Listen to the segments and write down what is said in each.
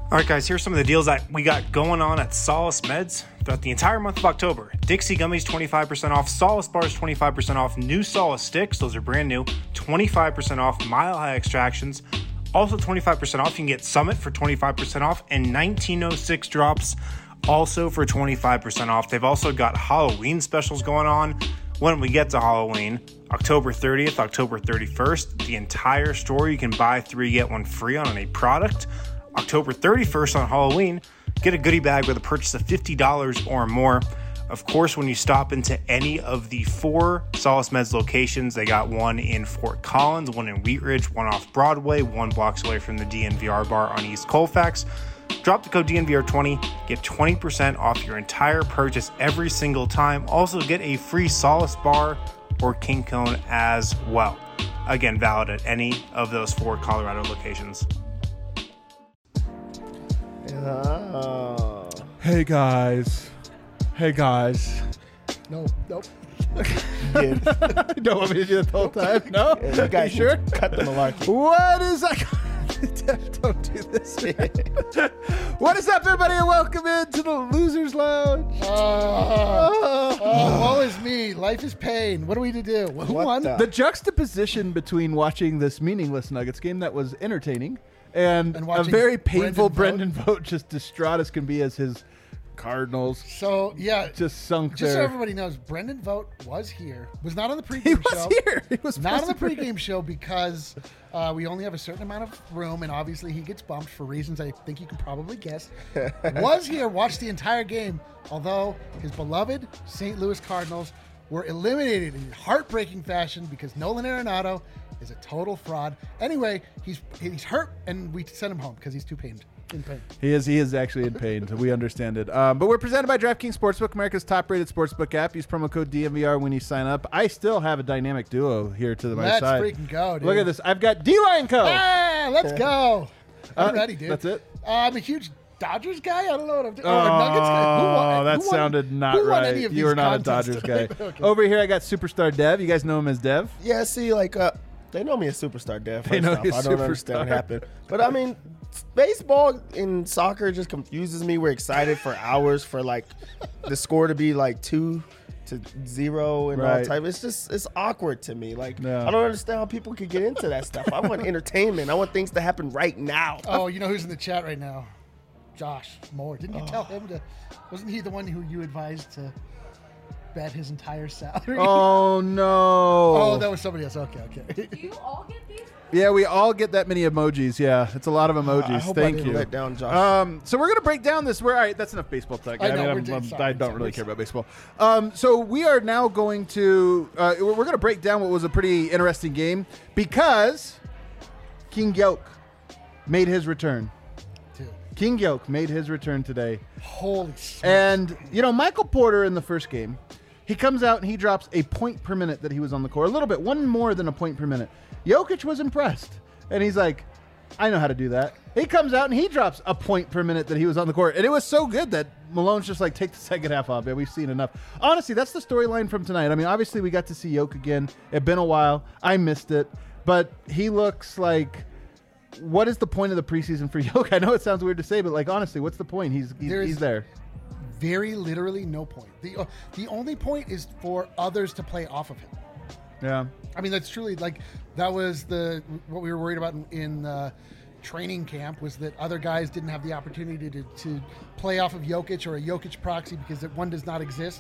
All right, guys, here's some of the deals that we got going on at Solace Meds throughout the entire month of October. Dixie Gummies, 25% off. Solace Bars, 25% off. New Solace Sticks, those are brand new, 25% off. Mile High Extractions, also 25% off. You can get Summit for 25% off. And 1906 Drops, also for 25% off. They've also got Halloween specials going on. When we get to Halloween, October 30th, October 31st, the entire store, you can buy 3, get 1 free on a product. October 31st on Halloween, get a goodie bag with a purchase of $50 or more. Of course, when you stop into any of the 4 Solace Meds locations, they got one in Fort Collins, one in Wheat Ridge, one off Broadway, 1 block away from the DNVR bar on East Colfax. Drop the code DNVR20, get 20% off your entire purchase every single time. Also get a free Solace bar or King Cone as well. Again, valid at any of those 4 Colorado locations. Hey guys. Nope. You don't want me to do that the whole time? No? Yeah, you guys sure? Cut the malarkey. What is that? Don't do this. What is up, everybody, and welcome into the Losers Lounge. Woe is me. Life is pain. What are we to do? Who won? The juxtaposition between watching this meaningless Nuggets game that was entertaining and a very painful Brendan Vogt, just distraught as can be as his Cardinals. So, yeah. Just sunk Just there. so everybody knows, Brendan Vogt was here. Was not on the pregame He show. was here. He was not on the supposed to be. pregame show because we only have a certain amount of room, and obviously he gets bumped for reasons I think you can probably guess. Was here, watched the entire game, although his beloved St. Louis Cardinals were eliminated in heartbreaking fashion because Nolan Arenado is a total fraud. Anyway, he's hurt, and we sent him home because he's too in pain. He is actually in pain. So we understand it. But we're presented by DraftKings Sportsbook, America's top-rated sportsbook app. Use promo code DNVR when you sign up. I still have a dynamic duo here to my Let's side. freaking go, dude. Look at this. I've got D-Line Co. Ah, let's go. I'm ready, dude. That's it? I'm a huge Dodgers guy. I don't know what I'm doing. Oh, Nuggets guy. that sounded not who won right. any of You are these not a contests Dodgers guy. tonight? Okay. Over here, I got Superstar Dev. You guys know him as Dev? Yeah, see, they know me as Superstar Dev. They know you I as don't understand what Superstar. happened. But, I mean, baseball and soccer just confuses me. We're excited for hours for, the score to be, 2-0 and all Right. type. It's awkward to me. Yeah. I don't understand how people could get into that stuff. I want entertainment. I want things to happen right now. Oh, you know who's in the chat right now? Josh Moore. Didn't you tell him to? Wasn't he the one who you advised to bet his entire salary? Oh, no. Oh, that was somebody else. Okay. Do you all get these? Yeah, we all get that many emojis. Yeah, it's a lot of emojis. I hope I Thank didn't you. let down Josh. So we're gonna break down this. All right, that's enough baseball talk. I know, I don't really care about baseball. So we are now going to we're gonna break down what was a pretty interesting game because King Yoke made his return. Dude, King Yoke made his return today. holy shit. And, Michael Porter in the first game, he comes out and he drops a point per minute that he was on the court. A little bit, one more than a point per minute. Jokic was impressed. And he's like, I know how to do that. He comes out and he drops a point per minute that he was on the court. And it was so good that Malone's just like, take the second half off. Yeah, we've seen enough. Honestly, that's the storyline from tonight. I mean, obviously we got to see Yoke again. It's been a while. I missed it. But he looks like... What is the point of the preseason for Yoke? I know it sounds weird to say, but honestly, what's the point? He's there. Very literally no point. The only point is for others to play off of him. Yeah. I mean, that's truly that was what we were worried about in training camp was that other guys didn't have the opportunity to play off of Jokic or a Jokic proxy because one does not exist.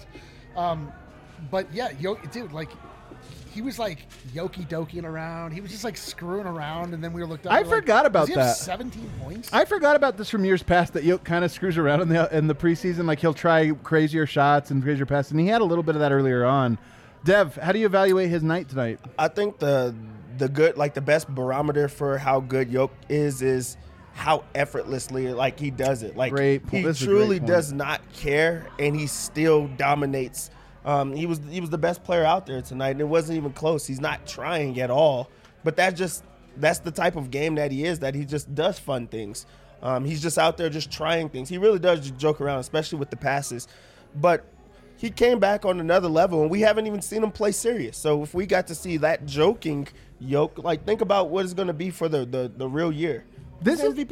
But yeah, dude, he was Yoki-doking around. He was just screwing around, and then we were looked up. I forgot about does he have that. 17 points. I forgot about this from years past that Yoke kind of screws around in the preseason. He'll try crazier shots and crazier passes, and he had a little bit of that earlier on. Dev, how do you evaluate his night tonight? I think the good, the best barometer for how good Yoke is how effortlessly he does it. Great point. He This is a truly great point. does not care, and he still dominates. He was the best player out there tonight, and it wasn't even close. He's not trying at all, but that's the type of game that he is. That he just does fun things. He's just out there just trying things. He really does just joke around, especially with the passes. But he came back on another level, and we haven't even seen him play serious. So if we got to see that joking Yoke, think about what it's going to be for the real year. This He's is MVP.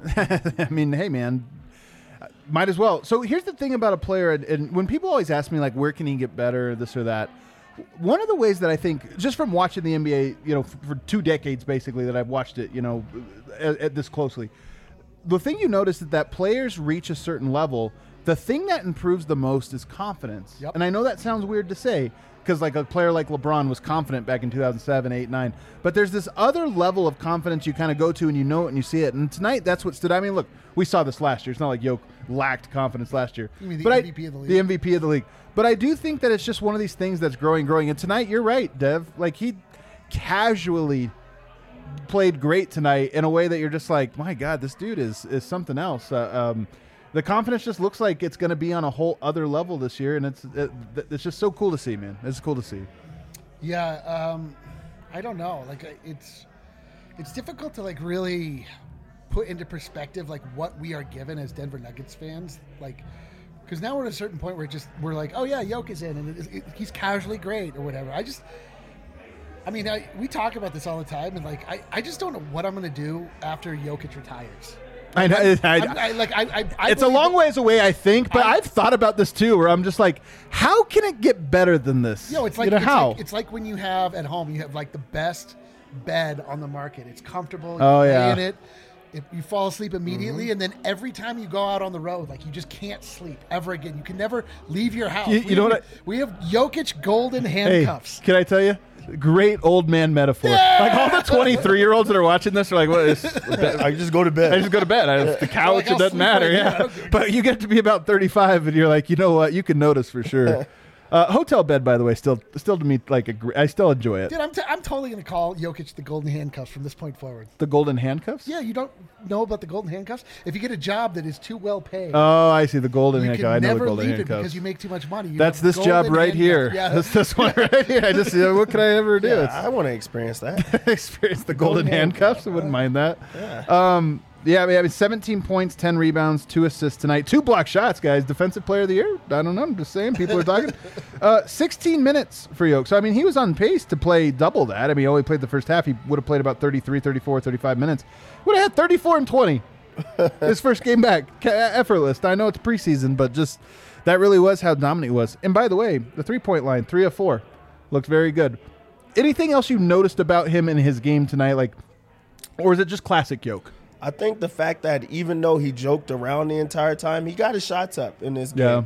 I mean, hey, man, might as well. So here's the thing about a player, and when people always ask me, like, where can he get better, this or that, one of the ways that I think, just from watching the NBA, you know, for 2 decades basically that I've watched it, you know, at this closely, the thing you notice is that players reach a certain level, the thing that improves the most is confidence. Yep. And I know that sounds weird to say, because like a player like LeBron was confident back in 2007, 8, 9. But there's this other level of confidence you kind of go to and you know it and you see it. And tonight, that's what stood out. I mean, look, we saw this last year. It's not like Jokic lacked confidence last year. You mean the but MVP of the league? The MVP of the league. But I do think that it's just one of these things that's growing. And tonight, you're right, Dev. Like, he casually played great tonight in a way that you're just like, my God, this dude is something else. The confidence just looks like it's going to be on a whole other level this year, and it's just so cool to see, man. It's cool to see. Yeah, I don't know. Like, it's difficult to like really put into perspective like what we are given as Denver Nuggets fans, like. Because now we're at a certain point where we're like, oh yeah, Jokic is in, and he's casually great or whatever. We talk about this all the time, and like, I just don't know what I'm going to do after Jokic retires. I know. It's a long ways away, I think, but I've thought about this too, where I'm just like, how can it get better than this? It's like, how? It's like when you have at home, you have like the best bed on the market. It's comfortable. Oh, you yeah. lay in it. You fall asleep immediately, and then every time you go out on the road, like you just can't sleep ever again. You can never leave your house. We have Jokic golden handcuffs. Hey, can I tell you? Great old man metaphor. Yeah! Like all the 23-year-olds that are watching this are like, "What is?" I just go to bed. I just go to bed. The couch, Like, it doesn't matter. Yeah, but you get to be about 35, and you're like, you know what? You can notice for sure. Hotel bed, by the way, still to me like I still enjoy it. Dude, I'm totally gonna call Jokic the golden handcuffs from this point forward. The golden handcuffs? Yeah, you don't know about the golden handcuffs? If you get a job that is too well paid, Oh, I see the golden you handcuff. can I know the never golden leave it handcuffs. because you make too much money. You That's have this job golden right here. handcuffs. Yeah, That's this one right here. I just what can I ever do? Yeah, I want to experience that. Experience the golden handcuffs. I wouldn't mind that. Yeah, I mean, 17 points, 10 rebounds, 2 assists tonight, 2 block shots, guys. Defensive player of the year? I don't know. I'm just saying. People are talking. 16 minutes for Yoke. So, I mean, he was on pace to play double that. I mean, he only played the first half. He would have played about 33, 34, 35 minutes. Would have had 34 and 20 his first game back. Effortless. I know it's preseason, but just that really was how dominant he was. And by the way, the three-point line, 3 of 4. Looked very good. Anything else you noticed about him in his game tonight? Or is it just classic Yoke? I think the fact that even though he joked around the entire time, he got his shots up in this game.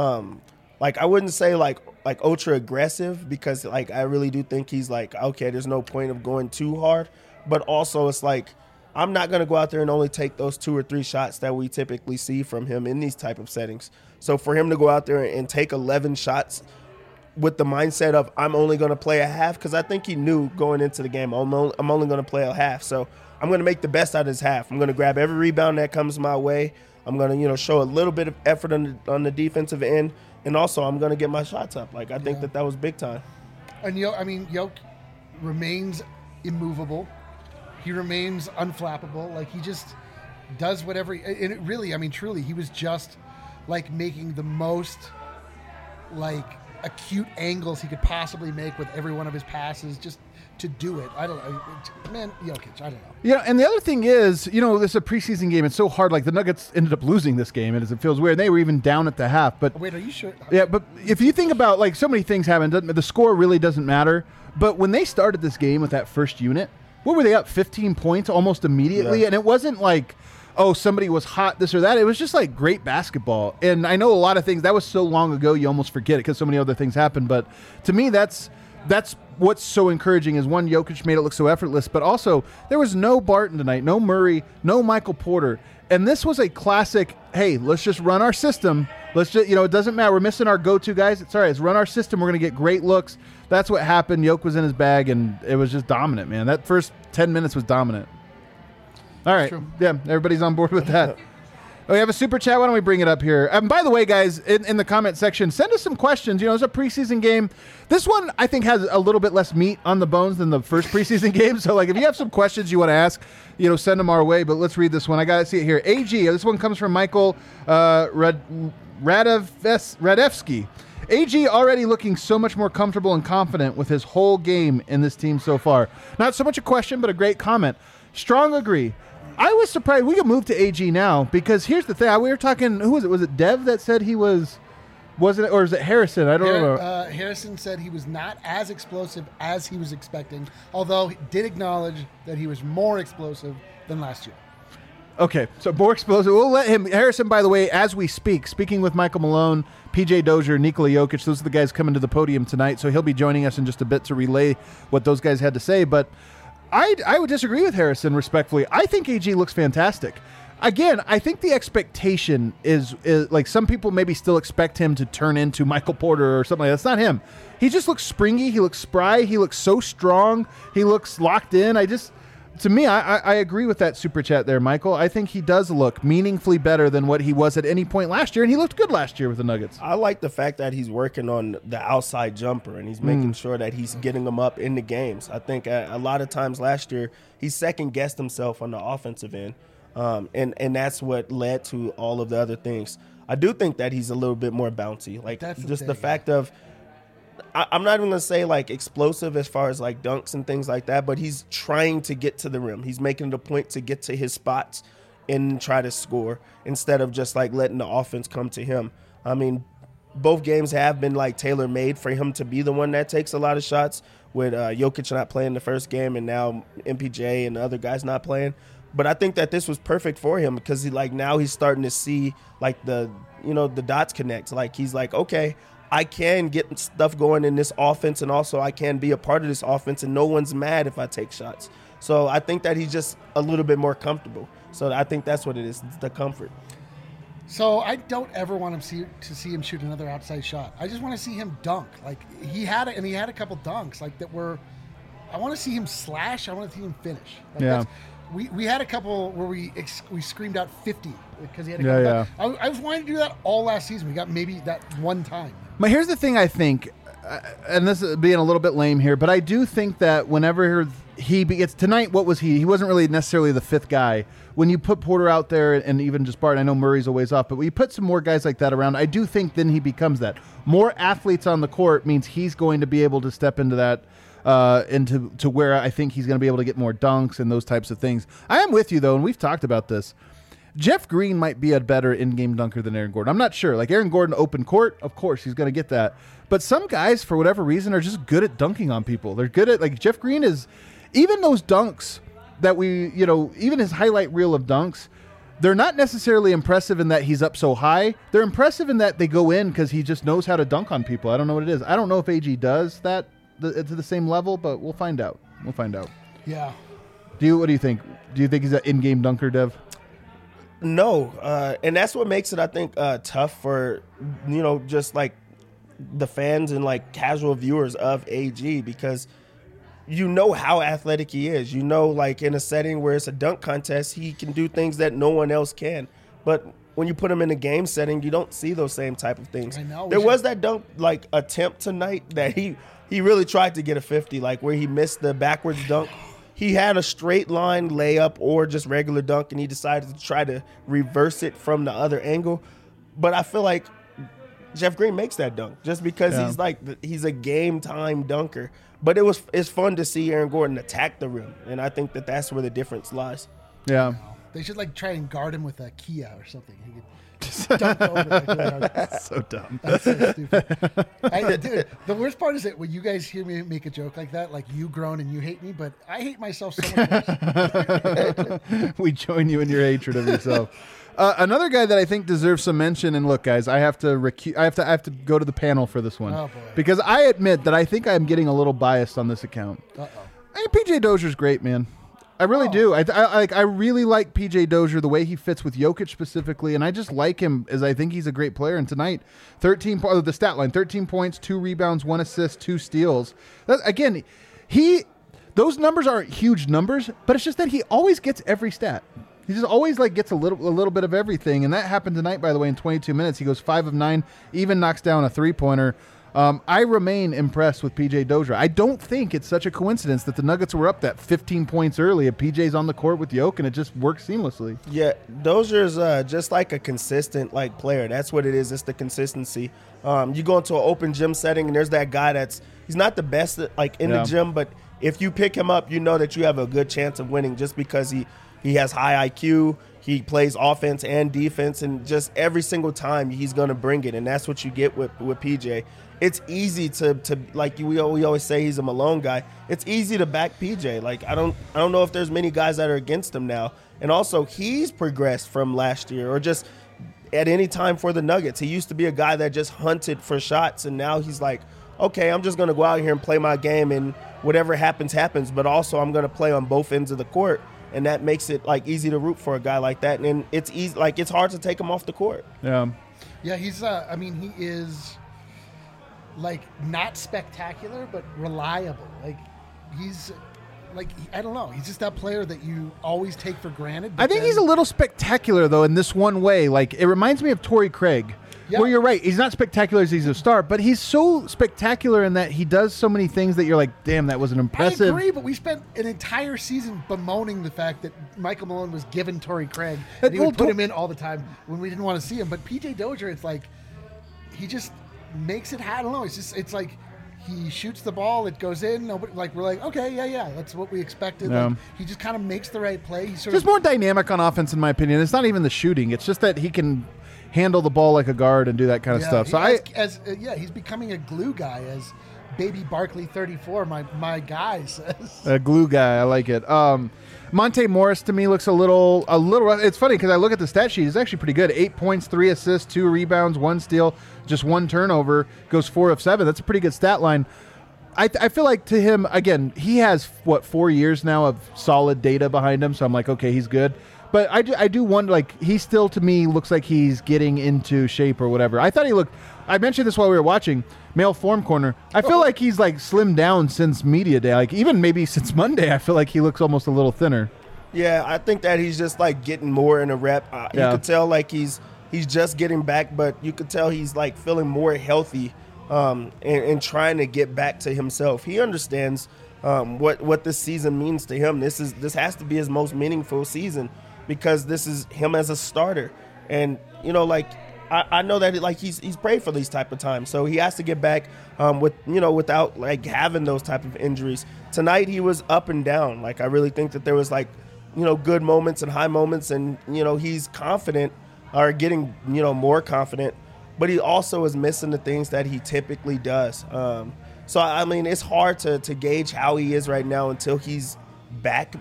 I wouldn't say like ultra aggressive because like I really do think he's like, okay, there's no point of going too hard. But also it's like I'm not going to go out there and only take those 2 or 3 shots that we typically see from him in these type of settings. So for him to go out there and take 11 shots with the mindset of I'm only going to play a half, because I think he knew going into the game I'm only going to play a half. So I'm going to make the best out of this half. I'm going to grab every rebound that comes my way. I'm going to, show a little bit of effort on the defensive end, and also I'm going to get my shots up. Like I think that was big time. And Yoke remains immovable. He remains unflappable. Like he just does whatever. And it really, truly, he was just like making the most like acute angles he could possibly make with every one of his passes, just to do it. I don't know. Man, Jokic, I don't know. Yeah, and the other thing is, this is a preseason game. It's so hard. Like, the Nuggets ended up losing this game, and it feels weird. They were even down at the half. But wait, are you sure? Yeah, but if you think about, like, so many things happen. The score really doesn't matter. But when they started this game with that first unit, what were they up? 15 points almost immediately? Yeah. And it wasn't like, oh, somebody was hot, this or that. It was just, like, great basketball. And I know a lot of things. That was so long ago, you almost forget it because so many other things happened. But to me, that's what's so encouraging is, one, Jokic made it look so effortless, but also there was no Barton tonight, no Murray, no Michael Porter. And this was a classic, hey, let's just run our system. Let's just, it doesn't matter. We're missing our go-to guys. It's all right. Let's run our system. We're going to get great looks. That's what happened. Yoke was in his bag, and it was just dominant, man. That first 10 minutes was dominant. All right. Yeah, everybody's on board with that. We have a super chat. Why don't we bring it up here? By the way, guys, in the comment section, send us some questions. It's a preseason game. This one, I think, has a little bit less meat on the bones than the first preseason game. So, if you have some questions you want to ask, send them our way. But let's read this one. I got to see it here. AG, this one comes from Michael Radevsky. AG already looking so much more comfortable and confident with his whole game in this team so far. Not so much a question, but a great comment. Strong agree. I was surprised. We could move to AG now because here's the thing. We were talking. Who was it? Was it Dev that said he was? Wasn't it? Or is it Harrison? I don't know. Harrison said he was not as explosive as he was expecting, although he did acknowledge that he was more explosive than last year. Okay, so more explosive. We'll let him. Harrison, by the way, as we speaking with Michael Malone, PJ Dozier, Nikola Jokic, those are the guys coming to the podium tonight. So he'll be joining us in just a bit to relay what those guys had to say. But I would disagree with Harrison respectfully. I think AG looks fantastic. Again, I think the expectation is like some people maybe still expect him to turn into Michael Porter or something like that. That's not him. He just looks springy. He looks spry. He looks so strong. He looks locked in. To me, I agree with that super chat there, Michael. I think he does look meaningfully better than what he was at any point last year, and he looked good last year with the Nuggets. I like the fact that he's working on the outside jumper, and he's making sure that he's getting them up in the games. I think a lot of times last year, he second-guessed himself on the offensive end, and that's what led to all of the other things. I do think that he's a little bit more bouncy. Like, That's the fact of – I'm not even going to say, like, explosive as far as, like, dunks and things like that, but he's trying to get to the rim. He's making it a point to get to his spots and try to score instead of just, like, letting the offense come to him. I mean, both games have been, like, tailor-made for him to be the one that takes a lot of shots, with Jokic not playing the first game and now MPJ and the other guys not playing. But I think that this was perfect for him because, now he's starting to see, like, the dots connect. Like, he's like, okay, I can get stuff going in this offense, and also I can be a part of this offense, and no one's mad if I take shots. So I think that he's just a little bit more comfortable. So I think that's what it is, it's the comfort. So I don't ever want him to see him shoot another outside shot. I just want to see him dunk. Like he had a couple dunks like that were. I want to see him slash. I want to see him finish. Like yeah. We had a couple where we screamed out 50 because he had a couple. Yeah. I was wanting to do that all last season. We got maybe that one time. But here's the thing I think, and this is being a little bit lame here, but I do think that whenever he gets tonight, what was he? He wasn't really necessarily the fifth guy. When you put Porter out there and even just Barton, I know Murray's a ways off, but when you put some more guys like that around, I do think then he becomes that. More athletes on the court means he's going to be able to step into that, into where I think he's going to be able to get more dunks and those types of things. I am with you, though, and we've talked about this. Jeff Green might be a better in-game dunker than Aaron Gordon. I'm not sure. Like Aaron Gordon, open court, of course, he's going to get that. But some guys, for whatever reason, are just good at dunking on people. They're good at, like, Jeff Green is, even those dunks that even his highlight reel of dunks, they're not necessarily impressive in that he's up so high. They're impressive in that they go in because he just knows how to dunk on people. I don't know what it is. I don't know if AG does that to the same level, but we'll find out. Yeah. What do you think? Do you think he's an in-game dunker, Dev? No, and that's what makes it, I think, tough for, just like the fans and like casual viewers of AG, because how athletic he is. Like in a setting where it's a dunk contest, he can do things that no one else can. But when you put him in a game setting, you don't see those same type of things. I know. There was that dunk like attempt tonight that he really tried to get a 50, like where he missed the backwards dunk. He had a straight line layup or just regular dunk, and he decided to try to reverse it from the other angle. But I feel like Jeff Green makes that dunk just because he's a game-time dunker. But it's fun to see Aaron Gordon attack the rim, and I think that's where the difference lies. Yeah. They should like try and guard him with a Kia or something. He could just dunk over. That's so dumb. That's so stupid. Dude, the worst part is that when you guys hear me make a joke like that, like you groan and you hate me, but I hate myself so much. We join you in your hatred of yourself. Another guy that I think deserves some mention, and look, guys, I have to go to the panel for this one. Oh, boy. Because I admit that I think I'm getting a little biased on this account. Hey, PJ Dozier's great, man. I really do. I really like PJ Dozier, the way he fits with Jokic specifically, and I just like him as I think he's a great player. And tonight, the stat line, 13 points, 2 rebounds, 1 assist, 2 steals. Again, those numbers aren't huge numbers, but it's just that he always gets every stat. He just always gets a little bit of everything, and that happened tonight, by the way, in 22 minutes. He goes 5 of 9, even knocks down a 3-pointer. I remain impressed with PJ Dozier. I don't think it's such a coincidence that the Nuggets were up that 15 points early, and PJ's on the court with Jokic, and it just works seamlessly. Yeah, Dozier's just like a consistent player. That's what it is. It's the consistency. You go into an open gym setting, and there's that guy he's not the best in the gym, but if you pick him up, you know that you have a good chance of winning just because He has high IQ. He plays offense and defense, and just every single time he's going to bring it, and that's what you get with PJ. It's easy to like we always say he's a Malone guy. It's easy to back PJ. Like I don't know if there's many guys that are against him now. And also he's progressed from last year or just at any time for the Nuggets. He used to be a guy that just hunted for shots, and now he's like, okay, I'm just going to go out here and play my game, and whatever happens, happens. But also I'm going to play on both ends of the court. And that makes it like easy to root for a guy like that, and it's easy. Like it's hard to take him off the court. Yeah, he's. I mean, he is like not spectacular, but reliable. Like he's like I don't know. He's just that player that you always take for granted. I think he's a little spectacular though in this one way. Like it reminds me of Torrey Craig. Yeah. Well, you're right. He's not spectacular as he's a star, but he's so spectacular in that he does so many things that you're like, damn, that was an impressive. I agree, but we spent an entire season bemoaning the fact that Michael Malone was given Torrey Craig, and he would put him in all the time when we didn't want to see him. But PJ Dozier, it's like he just makes it. I don't know. It's like he shoots the ball, it goes in. Nobody, like we're like, okay, yeah, that's what we expected. Yeah. Like, he just kind of makes the right play. He's just more dynamic on offense, in my opinion. It's not even the shooting; it's just that he can handle the ball like a guard and do that kind of stuff. So he's becoming a glue guy, as Baby Barkley 34, my guy says. A glue guy, I like it. Monte Morris to me looks a little. It's funny because I look at the stat sheet; he's actually pretty good. 8 points, 3 assists, 2 rebounds, 1 steal, just 1 turnover. Goes 4 of 7. That's a pretty good stat line. I feel like to him again, he has 4 years now of solid data behind him. So I'm like, okay, he's good. But I do wonder, like, he still, to me, looks like he's getting into shape or whatever. I thought he looked, I mentioned this while we were watching, Male Form Corner. I feel like he's, like, slimmed down since media day. Like, even maybe since Monday, I feel like he looks almost a little thinner. Yeah, I think that he's just, like, getting more in a rep. You could tell, like, he's just getting back, but you could tell he's, like, feeling more healthy and trying to get back to himself. He understands what this season means to him. This has to be his most meaningful season, because this is him as a starter. And, you know, like, I know that, like, he's prayed for these type of times. So he has to get back without, like, having those type of injuries. Tonight he was up and down. Like, I really think that there was, like, you know, good moments and high moments. And, you know, he's confident or getting, you know, more confident. But he also is missing the things that he typically does. So, I mean, it's hard to gauge how he is right now until he's back.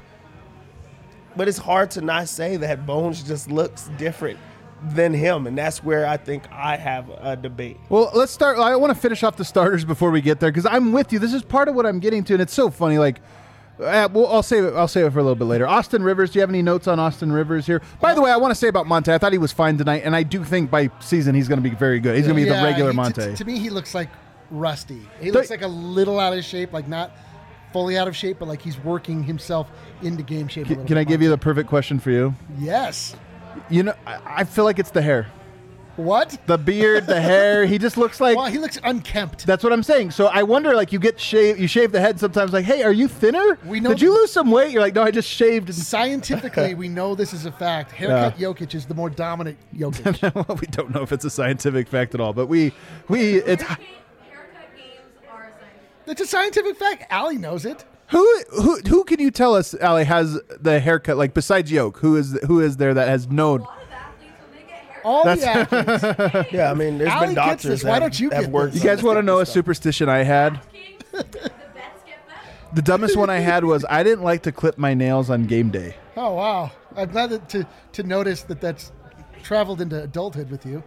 But it's hard to not say that Bones just looks different than him, and that's where I think I have a debate. Well, let's start. I want to finish off the starters before we get there, because I'm with you. This is part of what I'm getting to, and it's so funny. Like, I'll save it for a little bit later. Austin Rivers. Do you have any notes on Austin Rivers here? By the way, I want to say about Monte, I thought he was fine tonight, and I do think by season he's going to be very good. He's going to be the regular Monte. To me, he looks like rusty. He looks like a little out of shape, like not fully out of shape, but like he's working himself into game shape. Can I give you the perfect question for you? Yes. You know, I feel like it's the hair. What? The beard, the hair. He just looks like. Well, he looks unkempt. That's what I'm saying. So I wonder, like, you shave the head sometimes. Like, hey, are you thinner? Did you lose some weight? You're like, no, I just shaved. Scientifically, we know this is a fact. Haircut Jokic is the more dominant Jokic. Well, we don't know if it's a scientific fact at all, but it's. Haircut games are a scientific. It's a scientific fact. Allie knows it. Who can you tell us, Allie, has the haircut, like, besides Yoke? Who is there that has known? A lot of athletes, when they get haircuts. All the athletes. Yeah, I mean, there's Allie been gets doctors this. Why don't you that get worked. this? You guys want to know a superstition I had? The bets get better. The dumbest one I had was I didn't like to clip my nails on game day. Oh, wow. I'm glad to notice that's traveled into adulthood with you.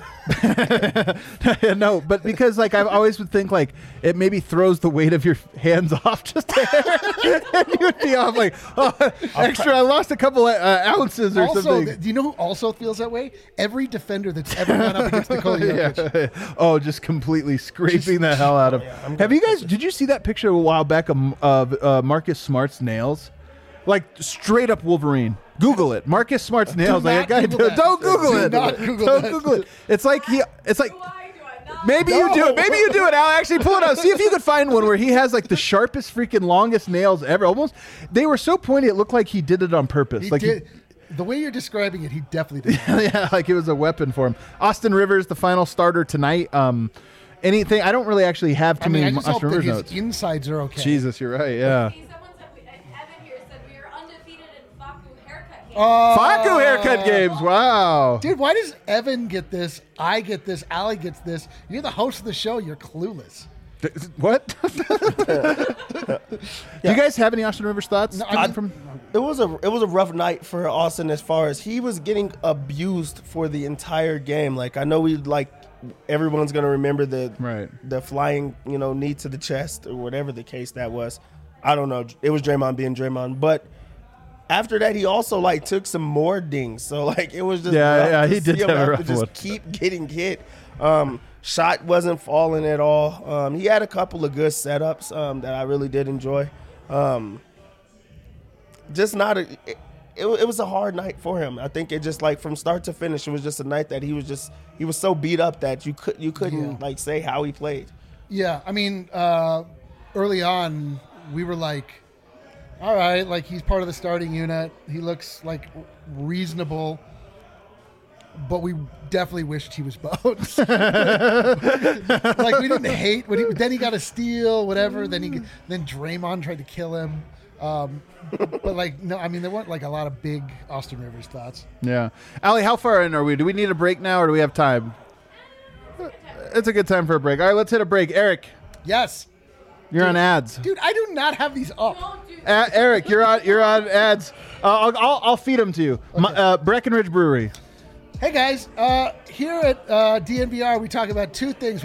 No, but because, like, I've always would think, like, it maybe throws the weight of your hands off just a hair. And you would be off, like, oh, extra, I lost a couple ounces or something. Do you know who also feels that way? Every defender that's ever gone up against Nikola Jokic. Yeah. Oh, just completely scraping the hell out of. Did you see that picture a while back of Marcus Smart's nails? Like, straight up Wolverine. Google it. Marcus Smart's nails. Like a guy. Don't Google it. Don't Google it. It's like It's like. Do I not? Maybe you do it. Maybe you do it, Al. Actually, pull it out. See if you could find one where he has, like, the sharpest, freaking longest nails ever. Almost, they were so pointy. It looked like he did it on purpose. He like did. The way you're describing it, he definitely did. Yeah, like it was a weapon for him. Austin Rivers, the final starter tonight. Anything? I don't really actually have too many I just hope Austin that Rivers his notes. insides are okay. Jesus, you're right. Yeah. Someone said, Evan here said we are undefeated in fuck Facu haircut games. Wow. Dude, why does Evan get this? I get this. Allie gets this. You're the host of the show. You're clueless. What? Do you guys have any Austin Rivers thoughts? It was a rough night for Austin as far as he was getting abused for the entire game. Like I know everyone's gonna remember the flying knee to the chest or whatever the case that was. I don't know. It was Draymond being Draymond, but after that he also took some more dings. So it was just he did have a rough just one. keep getting hit. Shot wasn't falling at all. He had a couple of good setups that I really did enjoy. Just not it was a hard night for him. I think it just from start to finish, it was just a night that he was so beat up that you couldn't say how he played. Yeah, I mean, early on we were all right, he's part of the starting unit. He looks reasonable. But we definitely wished he was Bones. We didn't hate when then he got a steal, whatever. Then Draymond tried to kill him. But no, I mean there weren't a lot of big Austin Rivers thoughts. Yeah, Allie, how far in are we? Do we need a break now, or do we have time? It's a good time for a break. All right, let's hit a break. Eric, Yes, you're on ads. dude, I do not have these up. Don't do Eric, you're on ads. I'll feed them to you. Okay. Breckenridge Brewery. Hey guys, here at DNVR we talk about two things.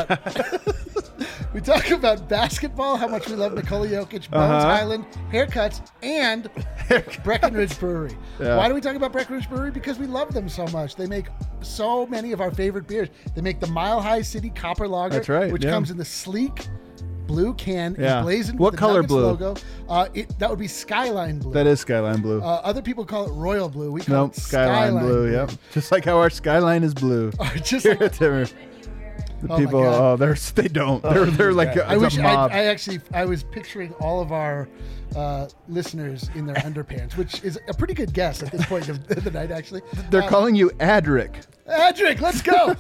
We talk about basketball, how much we love Nikola Jokic, Bones Highland, haircuts, and Breckenridge Brewery. Yeah. Why do we talk about Breckenridge Brewery? Because we love them so much. They make so many of our favorite beers. They make the Mile High City Copper Lager, That's right, which yeah. comes in the sleek blue can, Yeah. emblazoned What with the color Nuggets blue? logo. That would be Skyline Blue. That is Skyline Blue. Other people call it Royal Blue. We call Nope, it Skyline Blue. Yep, just like how our skyline is blue. Just Here like, at Timmer. The Oh my people, God. they don't. They're like I it's wish a mob. I was picturing all of our listeners in their underpants, which is a pretty good guess at this point of the night. Actually, They're calling you Adric. Adric, let's go.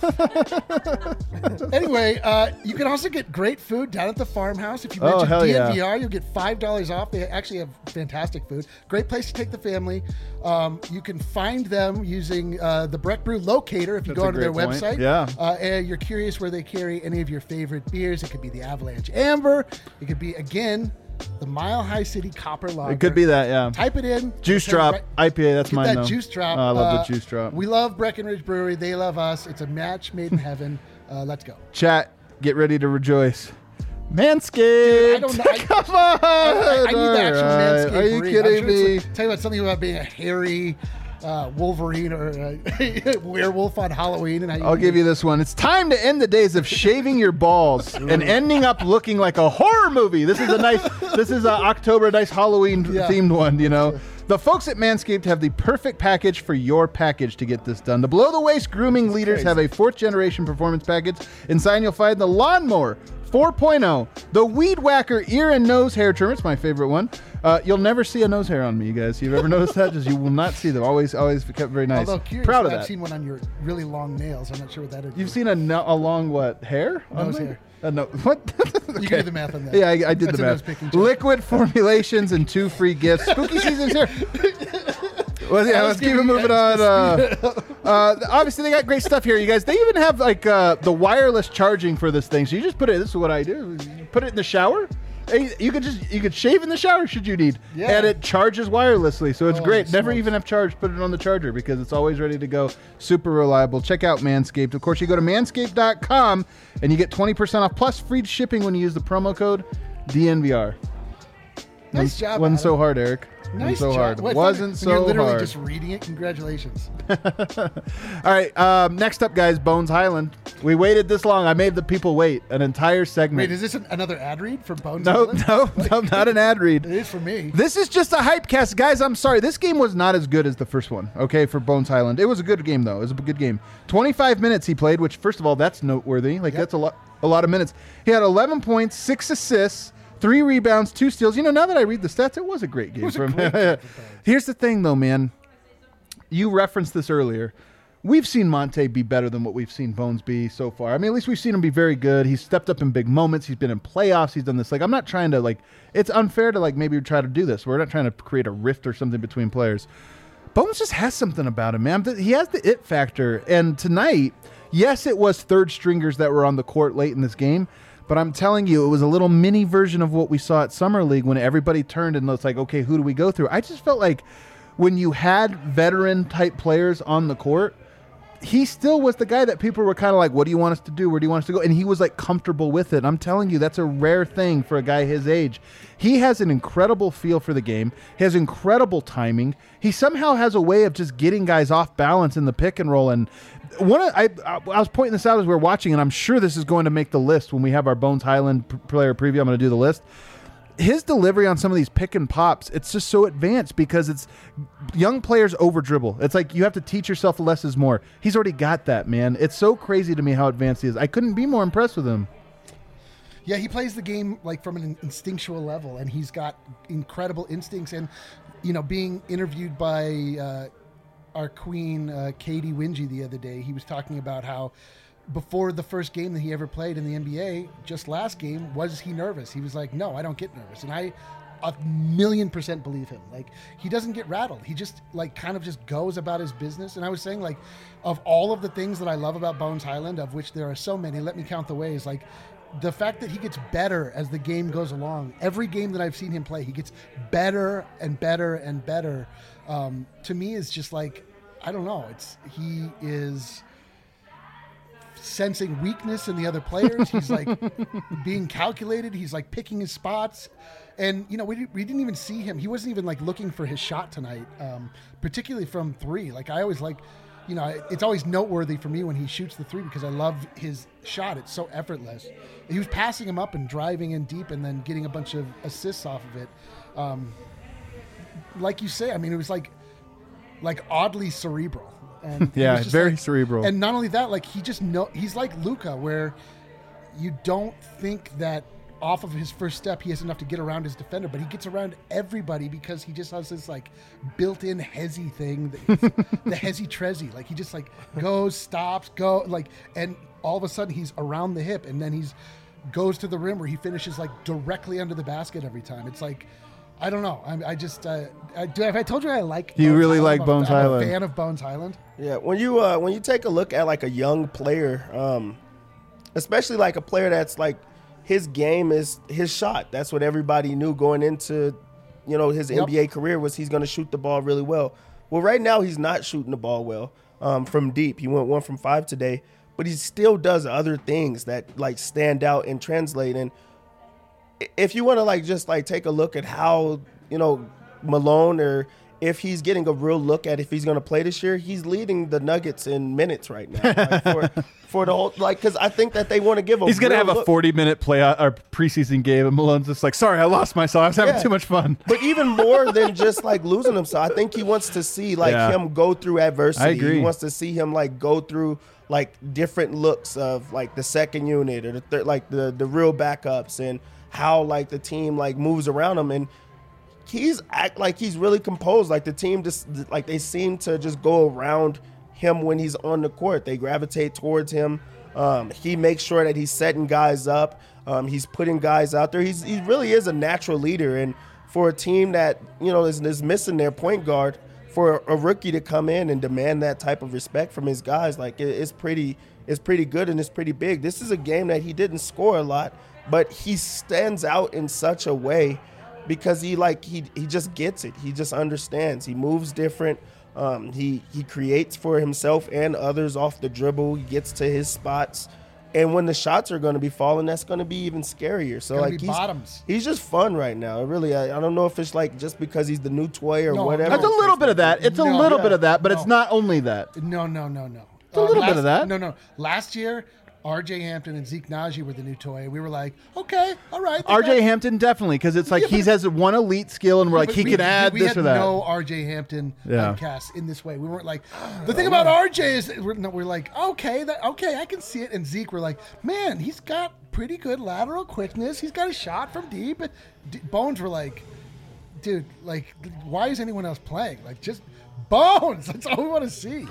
Anyway, you can also get great food down at the farmhouse. If you Oh, mention hell yeah. DNVR, you'll get $5 off. They actually have fantastic food. Great place to take the family. You can find them using the Breck Brew locator if you That's go a onto their great point. website. Yeah. And you're curious where they carry any of your favorite beers. It could be the Avalanche Amber. It could be, again, the Mile High City Copper Lager. It could be that, yeah. Type it in. Juice It'll Drop tell you IPA. That's Get mine that though. juice drop. Oh, I love the juice drop. We love Breckenridge Brewery. They love us. It's a match made in heaven. Let's go. Chat, get ready to rejoice. Manscaped. I don't know. Come on. I need the actual All right. Manscaped Are you brief. kidding I'm sure me? it's tell you about something about being a hairy Wolverine or a werewolf on Halloween. And how I'll give you this one. It's time to end the days of shaving your balls and ending up looking like a horror movie. This is October, nice Halloween themed one, you know. The folks at Manscaped have the perfect package for your package to get this done. The below the waist grooming leaders have a 4th generation performance package. Inside you'll find the Lawnmower 4.0, the Weed Whacker ear and nose hair trimmer. It's my favorite one. You'll never see a nose hair on me, you guys. You've ever noticed that? You will not see them. Always kept very nice. Although curious, Proud of I've that. seen one on your really long nails. I'm not sure what that is. You've seen a long what hair? on Nose me? hair. No, what? You can do the math on that. Yeah, I did That's the a math. nose-picking joke. Liquid formulations and 2 free gifts. Spooky season's here. Well, yeah, let's keep it moving on. Obviously, they got great stuff here, you guys. They even have the wireless charging for this thing. So you just put it. This is what I do. You put it in the shower. You could shave in the shower should you need, Yeah. and it charges wirelessly. So it's Oh, great. Never smokes. even have charged. Put it on the charger because it's always ready to go. Super reliable. Check out Manscaped. Of course, you go to manscaped.com and you get 20% off plus free shipping when you use the promo code DNVR. Nice job, Wasn't Adam. so hard, Eric. Nice so job. hard. Well, I thought Wasn't when so You're literally hard. just reading it. Congratulations. All right. Next up, guys, Bones Highland. We waited this long. I made the people wait an entire segment. Wait, is this another ad read from Bones? no, Island? no, not an ad read. It is for me. This is just a hype cast. Guys, I'm sorry. This game was not as good as the first one, okay, for Bones Highland. It was a good game, though. It was a good game. 25 minutes he played, which, first of all, that's noteworthy. Like, that's a lot of minutes. He had 11 points, 6 assists, 3 rebounds, 2 steals. You know, now that I read the stats, it was a great game for him. Here's the thing, though, man. You referenced this earlier. We've seen Monte be better than what we've seen Bones be so far. I mean, at least we've seen him be very good. He's stepped up in big moments. He's been in playoffs. He's done this. Like, I'm not trying to, like, it's unfair to, like, maybe try to do this. We're not trying to create a rift or something between players. Bones just has something about him, man. He has the it factor. And tonight, yes, it was third stringers that were on the court late in this game, but I'm telling you, it was a little mini version of what we saw at Summer League when everybody turned and it's like, okay, who do we go through? I just felt like when you had veteran-type players on the court, he still was the guy that people were kind of like, what do you want us to do? Where do you want us to go? And he was like comfortable with it. I'm telling you, that's a rare thing for a guy his age. He has an incredible feel for the game. He has incredible timing. He somehow has a way of just getting guys off balance in the pick and roll. And I was pointing this out as we were watching, and I'm sure this is going to make the list when we have our Bones Highland player preview. I'm going to do the list. His delivery on some of these pick and pops, it's just so advanced because it's young players over dribble. It's like you have to teach yourself less is more. He's already got that, man. It's so crazy to me how advanced he is. I couldn't be more impressed with him. Yeah, he plays the game like from an instinctual level, and he's got incredible instincts. And, being interviewed by our queen, Katie Wingy, the other day, he was talking about how before the first game that he ever played in the NBA, just last game, was he nervous? He was like, no, I don't get nervous. And I 1,000,000% believe him. Like, he doesn't get rattled. He just kind of just goes about his business. And I was saying, like, of all of the things that I love about Bones Highland, of which there are so many, let me count the ways, like the fact that he gets better as the game goes along. Every game that I've seen him play, he gets better and better and better. To me, is just like, I don't know. He is sensing weakness in the other players. He's like being calculated. He's like picking his spots. And, we didn't even see him. He wasn't even like looking for his shot tonight, particularly from three. Like, I always like, it's always noteworthy for me when he shoots the three because I love his shot. It's so effortless. He was passing him up and driving in deep and then getting a bunch of assists off of it. Like you say, I mean, it was like oddly cerebral. And yeah, very cerebral. And not only that, like he's like Luka, where you don't think that off of his first step he has enough to get around his defender, but he gets around everybody because he just has this like built-in hezzy thing, the hezzy trezzy. Like, he just like goes, stops, and all of a sudden he's around the hip, and then he's goes to the rim where he finishes like directly under the basket every time. It's like, I don't know. I just have I told you I like. You Bones really Highland? like Bones Highland. I'm a fan of Bones Highland. Yeah, when you take a look at like a young player, especially like a player that's like his game is his shot. That's what everybody knew going into, his NBA career was he's going to shoot the ball really well. Well, right now he's not shooting the ball well from deep. He went 1 from 5 today, but he still does other things that like stand out and translate. And if you want to like just like take a look at how Malone, or if he's getting a real look at if he's going to play this year, he's leading the Nuggets in minutes right now, like for the whole, like, because I think that they want to give him. He's going to have a 40-minute or preseason game, and Malone's just like, sorry, I lost myself. I was having too much fun. But even more than just like losing himself, I think he wants to see like him go through adversity. I agree. He wants to see him like go through like different looks of like the second unit or the like the real backups, and how like the team like moves around him. And he's really composed. Like, the team just like they seem to just go around him when he's on the court. They gravitate towards him. He makes sure that he's setting guys up. He's putting guys out there. He really is a natural leader. And for a team that is missing their point guard, for a rookie to come in and demand that type of respect from his guys, like it's pretty good and it's pretty big. This is a game that he didn't score a lot, but he stands out in such a way because he just gets it. He just understands. He moves different. He creates for himself and others off the dribble. He gets to his spots. And when the shots are going to be falling, that's going to be even scarier. So like he's just fun right now. Really, I don't know if it's like just because he's the new toy or whatever. That's a little bit of that. It's a little bit of that, but it's not only that. No. It's a little bit of that. No. Last year, R.J. Hampton and Zeke Naji were the new toy. We were like, okay, all right. R.J. Hampton definitely, because it's like he has one elite skill, and we're like, he can add this or that. We had no R.J. Hampton cast in this way. We weren't like, the thing about R.J. is we're like, okay, I can see it. And Zeke, we're like, man, he's got pretty good lateral quickness. He's got a shot from deep. Bones were like, dude, like, why is anyone else playing? Like, just Bones. That's all we want to see.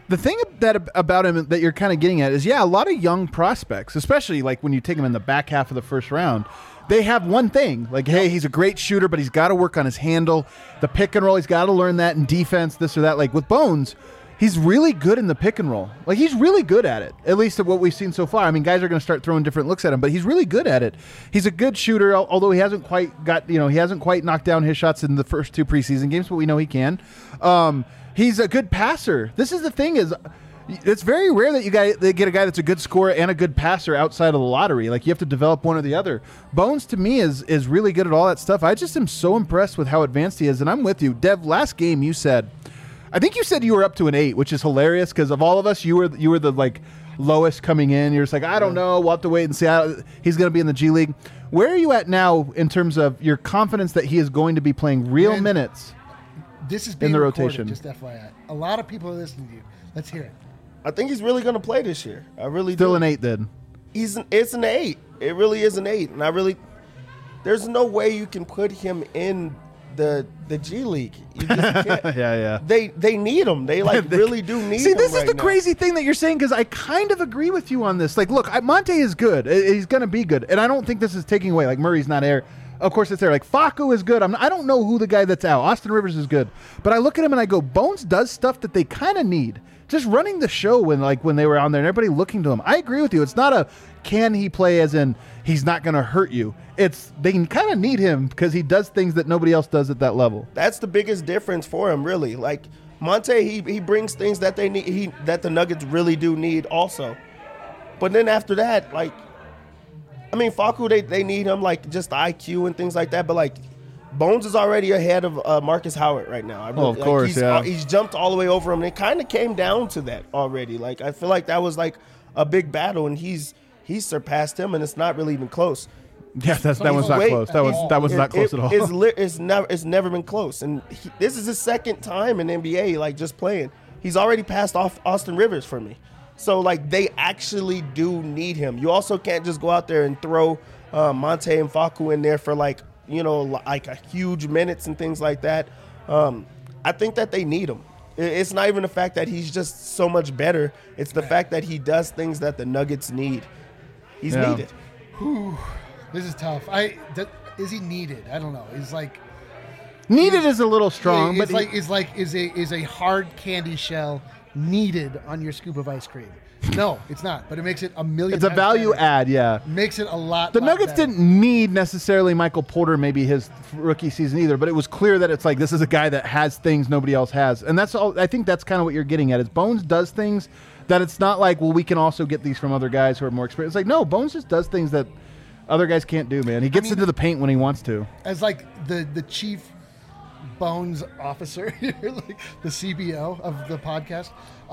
The thing about him that you're kind of getting at is, a lot of young prospects, especially like when you take him in the back half of the first round, they have one thing. Like, hey, he's a great shooter, but he's got to work on his handle. The pick and roll, he's got to learn that in defense, this or that. Like with Bones, he's really good in the pick and roll. Like he's really good at it, at least at what we've seen so far. I mean, guys are going to start throwing different looks at him, but he's really good at it. He's a good shooter, although he hasn't quite knocked down his shots in the first 2 preseason games, but we know he can. He's a good passer. This is the thing is, it's very rare that they get a guy that's a good scorer and a good passer outside of the lottery. Like you have to develop one or the other. Bones to me is really good at all that stuff. I just am so impressed with how advanced he is, and I'm with you. Dev, last game I think you said you were up to an 8, which is hilarious because of all of us, you were the like lowest coming in. You're just like, I don't know, we'll have to wait and see how he's going to be in the G League. Where are you at now in terms of your confidence that he is going to be playing real minutes? This is being in the recorded, rotation. Just FYI, a lot of people are listening to you. Let's hear it. I think he's really going to play this year. I really Still do. an 8 then. It's an 8. It really is an 8, and there's no way you can put him in the G League. You just can't. Yeah. They need him. They really do need him. See, this is right the now. crazy thing that you're saying because I kind of agree with you on this. Like, look, Monte is good. He's going to be good, and I don't think this is taking away. Like Murray's not there. Of course, it's there. Like Facu is good. I don't know who the guy that's out. Austin Rivers is good, but I look at him and I go, Bones does stuff that they kind of need. Just running the show when they were on there and everybody looking to him. I agree with you. It's not a can he play as in he's not going to hurt you. It's they kind of need him because he does things that nobody else does at that level. That's the biggest difference for him, really. Like Monte, he brings things that they need. That the Nuggets really do need also. But then after that, like, I mean, Facu, they need him like just the IQ and things like that. But like, Bones is already ahead of Marcus Howard right now. Of course, He's jumped all the way over him, and it kind of came down to that already. Like, I feel like that was like a big battle, and he's surpassed him, and it's not really even close. Yeah, that one's not close. That was not close at all. It's never been close, and this is his second time in NBA, like just playing. He's already passed off Austin Rivers for me. So like they actually do need him. You also can't just go out there and throw Monte and Facu in there for like a huge minutes and things like that. I think that they need him. It's not even the fact that he's just so much better. It's the fact that he does things that the Nuggets need. He's needed. Whew, this is tough. Is he needed? I don't know. He's like needed is a little strong, but is a hard candy shell needed on your scoop of ice cream? No, it's not. But it makes it a million. It's a times value better. add, yeah. Makes it a lot. The Nuggets better. didn't need necessarily Michael Porter, maybe his rookie season either, but it was clear that it's like this is a guy that has things nobody else has, and that's all. I think that's kind of what you're getting at. Is Bones does things that it's not like, well, we can also get these from other guys who are more experienced. It's like, no, Bones just does things that other guys can't do, man. He gets into the paint when he wants to. As like the chief Bones officer here, like the CBO of the podcast.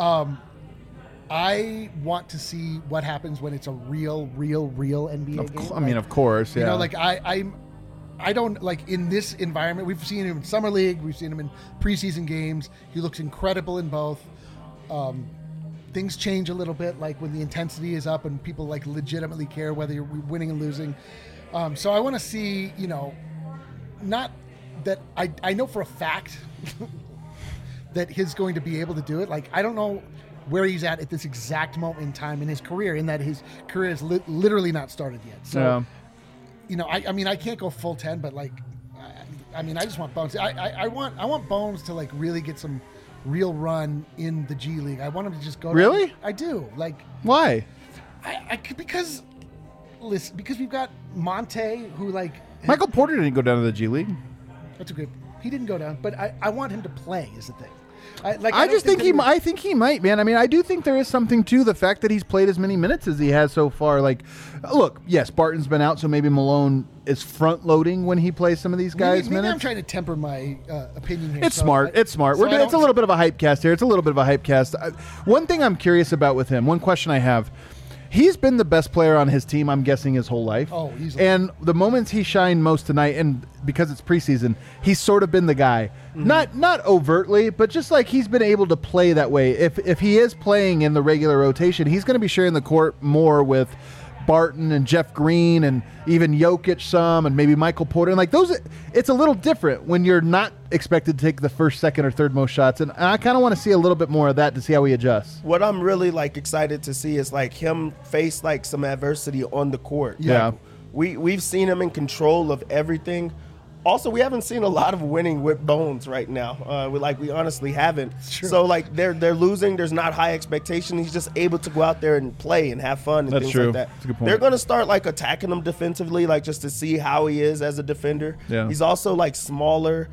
I want to see what happens when it's a real NBA game. I mean, of course, yeah. You know, like I don't like in this environment. We've seen him in summer league. We've seen him in preseason games. He looks incredible in both. Things change a little bit, like when the intensity is up and people like legitimately care whether you're winning and losing. So I want to see, not that I know for a fact that he's going to be able to do it. Like I don't know where he's at this exact moment in time in his career, in that his career has literally not started yet. So, I mean, I can't go full 10, but like, I mean, I just want Bones. I want Bones to like really get some real run in the G League. I want him to just go. Really? I do. Like, why? Because we've got Monte, who like Michael Porter didn't go down to the G League. That's a good. He didn't go down, but I want him to play. Is the thing. I think he might, man. I mean, I do think there is something to the fact that he's played as many minutes as he has so far. Like, look, yes, Barton's been out, so maybe Malone is front loading when he plays some of these guys' maybe minutes. I'm trying to temper my opinion here. It's smart. It's a little bit of a hype cast here. One thing I'm curious about with him, one question I have. He's been the best player on his team, I'm guessing, his whole life. Oh, easily. And the moments he shined most tonight, and because it's preseason, he's sort of been the guy. Mm-hmm. Not overtly, but just like he's been able to play that way. If he is playing in the regular rotation, he's going to be sharing the court more with Barton and Jeff Green and even Jokic some and maybe Michael Porter. And like those, it's a little different when you're not expected to take the first, second, or third most shots. And I kind of want to see a little bit more of that to see how he adjusts. What I'm really like excited to see is like him face like some adversity on the court. Yeah. Like, we've seen him in control of everything. Also, we haven't seen a lot of winning with Bones right now. We honestly haven't. True. So like they're losing. There's not high expectation. He's just able to go out there and play and have fun and That's things true. like that. That's a good point. They're going to start like attacking him defensively, like just to see how he is as a defender. Yeah. He's also like smaller.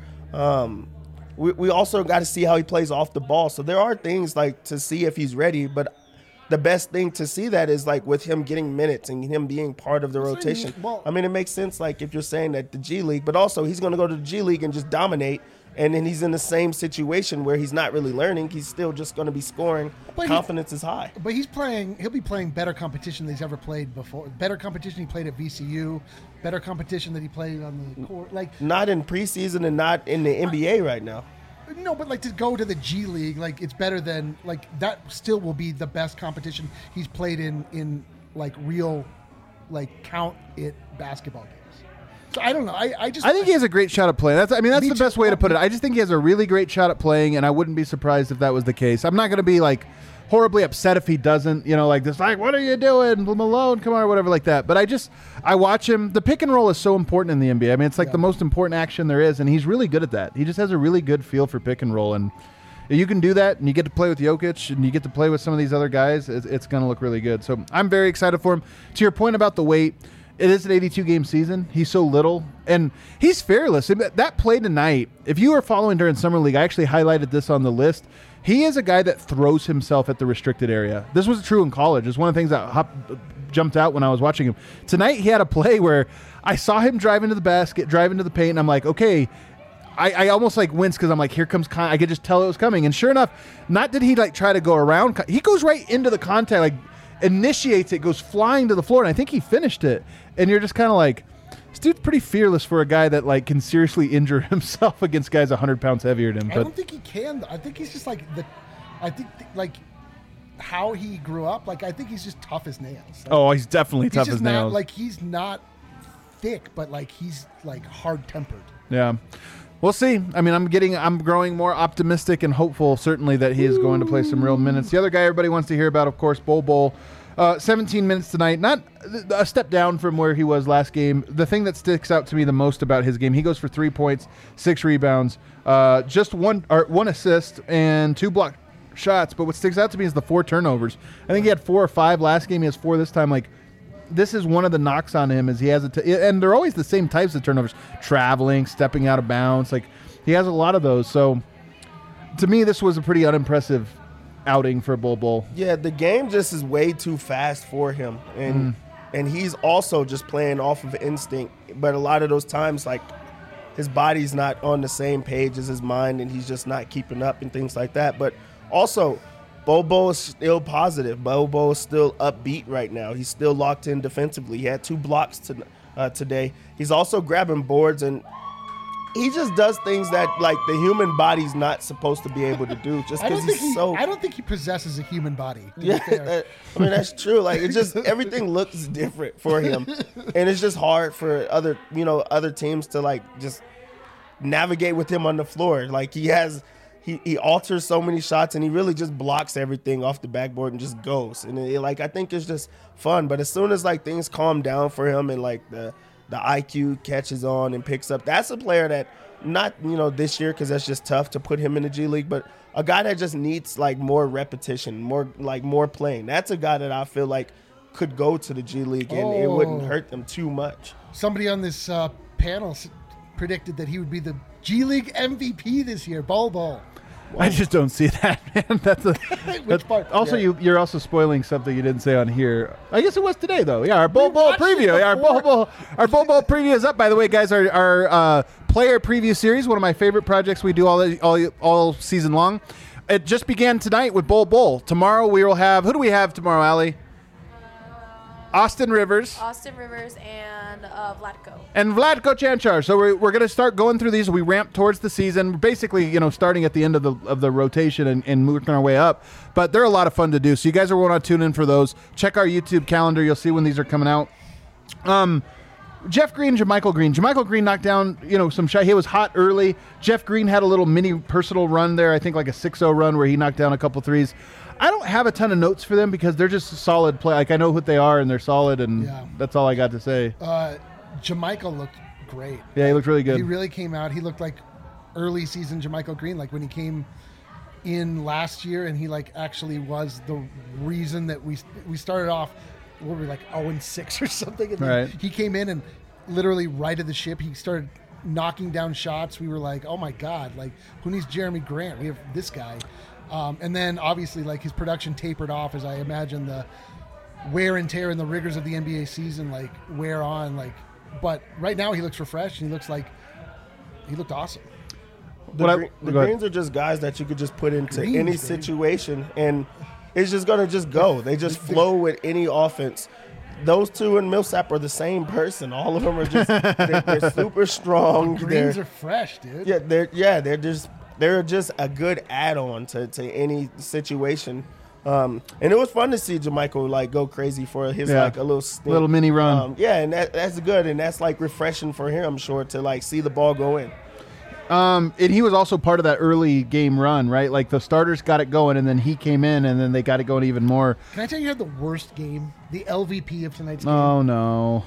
We also got to see how he plays off the ball. So there are things like to see if he's ready, but the best thing to see that is like with him getting minutes and him being part of the rotation. Well- I mean, it makes sense like if you're saying that the G League, but also he's going to go to the G League and just dominate. And then he's in the same situation where he's not really learning. He's still just going to be scoring. But Confidence is high. But he'll be playing better competition than he's ever played before. Better competition he played at VCU. Better competition that he played on the court. Like, Not in preseason and not in the NBA right now. no, but like to go to the G League, like it's better than like that. Still will be the best competition he's played in like real, like count it basketball games. So I don't know. I think he has a great shot at playing. That's Me the too. best way to put it. I just think he has a really great shot at playing, and I wouldn't be surprised if that was the case. I'm not going to be like horribly upset if he doesn't, like this, like, what are you doing, Malone, come on, or whatever like that. But I watch him. The pick and roll is so important in the NBA. I mean, it's like the most important action there is, and he's really good at that. He just has a really good feel for pick and roll, and you can do that, and you get to play with Jokic, and you get to play with some of these other guys. It's going to look really good. So I'm very excited for him. To your point about the weight, it is an 82-game season. He's so little, and he's fearless. That play tonight, if you were following during Summer League, I actually highlighted this on the list. He is a guy that throws himself at the restricted area. This was true in college. It's one of the things that jumped out when I was watching him. Tonight, he had a play where I saw him drive into the basket, drive into the paint, and I'm like, okay, I almost like winced because I'm like, here comes I could just tell it was coming. And sure enough, not did he like try to go around. He goes right into the contact, like initiates it, goes flying to the floor, and I think he finished it. And you're just kind of like, this dude's pretty fearless for a guy that like can seriously injure himself against guys 100 pounds heavier than him. I don't think he can. I think he's just like like how he grew up. Like I think he's just tough as nails. Like, he's definitely tough as nails. Like he's not thick, but like he's like hard tempered. Yeah. We'll see. I mean, I'm growing more optimistic and hopeful, certainly, that he is going to play some real minutes. The other guy everybody wants to hear about, of course, Bol Bol. 17 minutes tonight, not a step down from where he was last game. The thing that sticks out to me the most about his game, he goes for 3 points, 6 rebounds, just one assist and 2 blocked shots. But what sticks out to me is the 4 turnovers. I think he had 4 or 5 last game. He has 4 this time. Like, this is one of the knocks on him is he has and they're always the same types of turnovers, traveling, stepping out of bounds. Like, he has a lot of those. So to me, this was a pretty unimpressive outing for Bol Bol. Yeah, the game just is way too fast for him, and he's also just playing off of instinct. But a lot of those times, like, his body's not on the same page as his mind, and he's just not keeping up and things like that. But also, Bol Bol is still positive. Bol Bol is still upbeat right now. He's still locked in defensively. He had 2 blocks today. He's also grabbing boards, and he just does things that like the human body's not supposed to be able to do. Just because I don't think he possesses a human body. Yeah, I mean that's true. Like it just everything looks different for him, and it's just hard for other teams to like just navigate with him on the floor. Like he alters so many shots, and he really just blocks everything off the backboard and just goes. And I think it's just fun. But as soon as like things calm down for him and like the IQ catches on and picks up, that's a player that not this year because that's just tough to put him in the G League, but a guy that just needs like more repetition, more playing. That's a guy that I feel like could go to the G League and it wouldn't hurt them too much. Somebody on this panel predicted that he would be the G League MVP this year. Bol Bol. I just don't see that, man. Which part? Also, Yeah. you're also spoiling something you didn't say on here. I guess it was today, though. Yeah, our Bol Bol preview. Yeah, our Bol Bol preview is up, by the way, guys. Our player preview series, one of my favorite projects we do all season long. It just began tonight with Bol Bol. Tomorrow we will have. Who do we have tomorrow, Allie? Austin Rivers, and Vlatko. and Vlatko Cancar. So we're going to start going through these. We ramp towards the season, basically, starting at the end of the rotation and moving our way up. But they're a lot of fun to do. So you guys are want to tune in for those. Check our YouTube calendar. You'll see when these are coming out. Jeff Green, JaMychal Green. JaMychal Green knocked down, some shot. He was hot early. Jeff Green had a little mini personal run there. I think like a 6-0 run where he knocked down a couple threes. I don't have a ton of notes for them because they're just a solid play. Like I know what they are and they're solid, and that's all I got to say. JaMychal looked great. Yeah, he looked really good. He really came out. He looked like early season JaMychal Green, like when he came in last year, and he actually was the reason that we started off. What were we 0-6 or something? And then he came in and literally righted the ship. He started knocking down shots. We were like, oh my God, who needs Jeremy Grant? We have this guy. And then obviously his production tapered off as I imagine the wear and tear and the rigors of the NBA season wear on. But right now he looks refreshed and he looked awesome. The Greens are just guys that you could just put into any situation and it's just going to just go. They just flow with any offense. Those two and Millsap are the same person. All of them are just they're super strong. The Greens are fresh, dude. They're just a good add-on to any situation. And it was fun to see JaMychal go crazy for his a little stint. Little mini run. And that's good, and that's refreshing for him, I'm sure, to see the ball go in. And he was also part of that early game run, right? The starters got it going, and then he came in, and then they got it going even more. Can I tell you had the worst game? The LVP of tonight's game. Oh, no.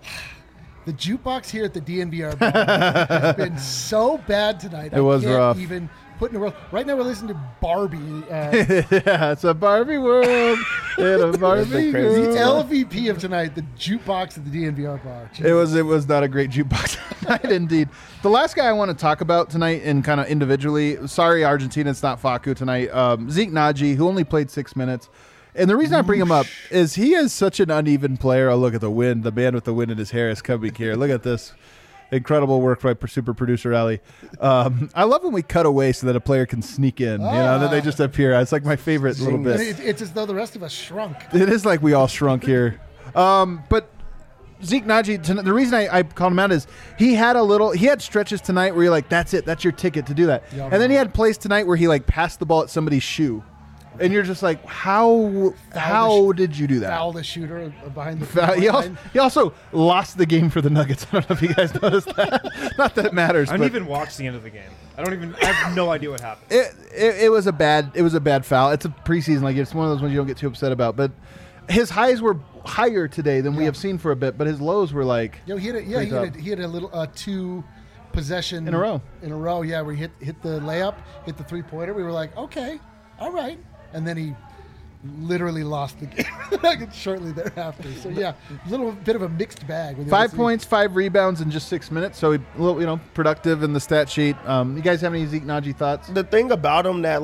The jukebox here at the DNVR bar has been so bad tonight. It was rough. Even put in a world. Right now we're listening to Barbie. Yeah, it's a Barbie world. In a Barbie world. The LVP of tonight, the jukebox at the DNVR bar. Jeez. It was not a great jukebox tonight, indeed. The last guy I want to talk about tonight, and kind of individually, sorry Argentina, it's not Facu tonight. Zeke Naji, who only played 6 minutes. And the reason I bring him up is he is such an uneven player. Oh, look at the wind. The man with the wind in his hair is coming here. Look at this. Incredible work by super producer Ali. I love when we cut away so that a player can sneak in. Then they just appear. It's my favorite little bit. It's as though the rest of us shrunk. It is like we all shrunk here. But Zeke Naji, the reason I called him out is he had stretches tonight where you're like, that's it. That's your ticket to do that. And then he had plays tonight where he passed the ball at somebody's shoe. And you're just like, how did you do that? Foul the shooter behind the he also lost the game for the Nuggets. I don't know if you guys noticed that. Not that it matters. I didn't even watch the end of the game. I have no idea what happened. It was a bad foul. It's a preseason. It's one of those ones you don't get too upset about. But his highs were higher today than we have seen for a bit. But his lows were he had a little 2 possession in a row. Yeah, where he hit the layup, hit the 3-pointer. We were like, okay, all right. And then he literally lost the game shortly thereafter. So, a little bit of a mixed bag. 5 points, 5 rebounds in just 6 minutes. So, productive in the stat sheet. You guys have any Zeke Naji thoughts? The thing about him that,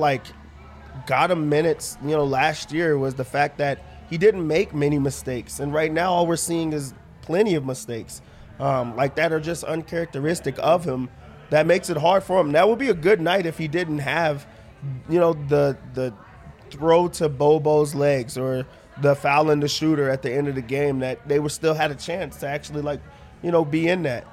got him minutes, last year was the fact that he didn't make many mistakes. And right now, all we're seeing is plenty of mistakes that are just uncharacteristic of him. That makes it hard for him. That would be a good night if he didn't have, the throw to Bobo's legs or the foul in the shooter at the end of the game, that they still had a chance to actually be in that.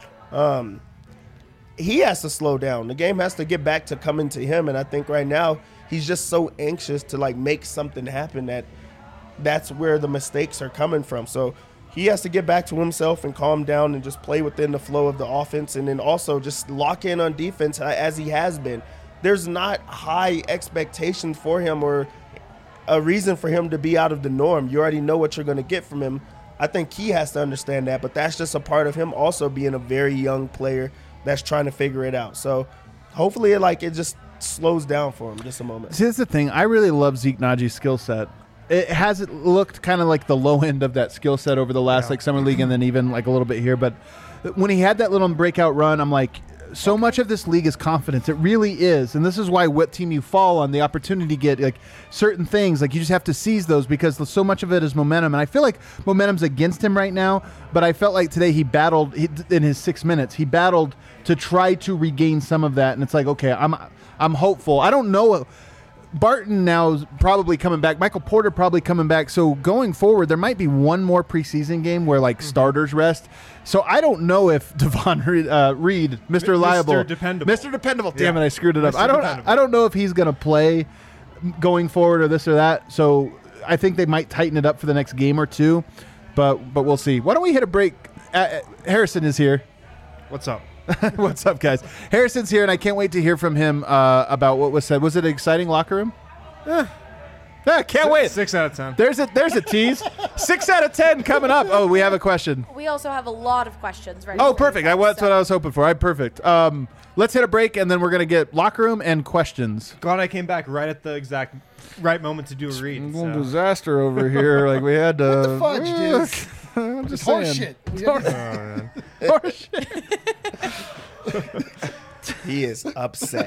He has to slow down. The game has to get back to coming to him, and I think right now he's just so anxious to make something happen that's where the mistakes are coming from. So he has to get back to himself and calm down and just play within the flow of the offense, and then also just lock in on defense as he has been. There's not high expectations for him or a reason for him to be out of the norm. You already know what you're going to get from him. I think he has to understand that, but that's just a part of him also being a very young player that's trying to figure it out. So hopefully it just slows down for him just a moment. See, that's the thing. I really love Zeke Naji's skill set. It hasn't looked kind of like the low end of that skill set over the last summer league and then even a little bit here. But when he had that little breakout run, I'm like, so much of this league is confidence. It really is. And this is why what team you fall on, the opportunity to get certain things, you just have to seize those because so much of it is momentum. And I feel like momentum's against him right now, but I felt like today he battled in his 6 minutes. He battled to try to regain some of that. And it's okay, I'm hopeful. I don't know Barton now is probably coming back. Michael Porter probably coming back. So going forward, there might be one more preseason game where starters rest. So I don't know if Devon Reed, Mr. Reliable, Mr. Dependable. Damn it, I screwed it up. I don't know if he's going to play going forward or this or that. So I think they might tighten it up for the next game or two, but we'll see. Why don't we hit a break? Harrison is here. What's up? What's up, guys? Harrison's here, and I can't wait to hear from him about what was said. Was it an exciting locker room? Can't wait. 6 out of 10. There's a tease. 6 out of 10 coming up. Oh, we have a question. We also have a lot of questions ready. Oh, perfect. That's what I was hoping for. Perfect. Let's hit a break, and then we're going to get locker room and questions. Glad I came back right at the exact right moment to do a read. Disaster over here. Like we had to. What the fudge, dude? I'm just Horse saying. shit. Horse shit. He is upset.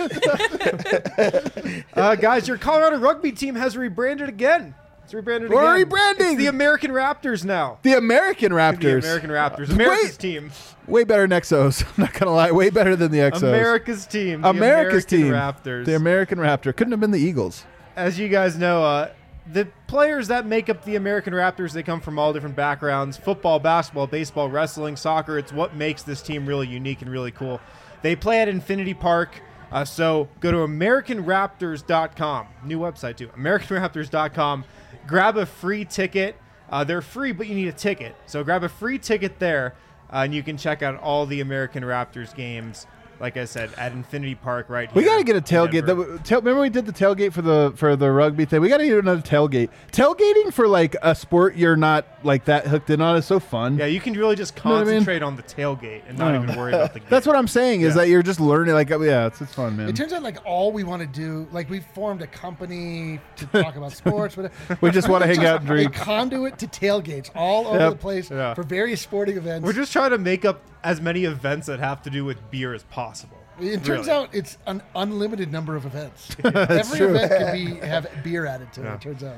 Guys, your Colorado rugby team has rebranded again. It's rebranded We're again. rebranding. It's the American Raptors now. The American Raptors. The American Raptors. America's Wait. team. Way better than Exos. I'm not gonna lie. Way better than the Exos. America's team. The America's American team. Raptors. The American Raptor. Couldn't have been the Eagles. As you guys know, the players that make up the American Raptors, they come from all different backgrounds. Football, basketball, baseball, wrestling, soccer. It's what makes this team really unique and really cool. They play at Infinity Park. So go to AmericanRaptors.com. New website, too. AmericanRaptors.com. Grab a free ticket. They're free, but you need a ticket. So grab a free ticket there, and you can check out all the American Raptors games. Like I said, at Infinity Park right here. We got to get a in tailgate. Denver. Remember we did the tailgate for the rugby thing? We got to get another tailgate. Tailgating for like a sport you're not like that hooked in on is so fun. Yeah, you can really just know what I mean? concentrate on the tailgate and not even worry about the game. That's what I'm saying is Yeah. that you're just learning. Like, yeah, it's fun, man. It turns out like all we want to do, like we formed a company to talk about sports. Whatever. We just want to hang out and A drink. conduit to tailgates all over Yep. the place Yeah. for various sporting events. We're just trying to make up as many events that have to do with beer as possible. It turns Really. out it's an unlimited number of events. Every true. event can have beer added to it. It turns out.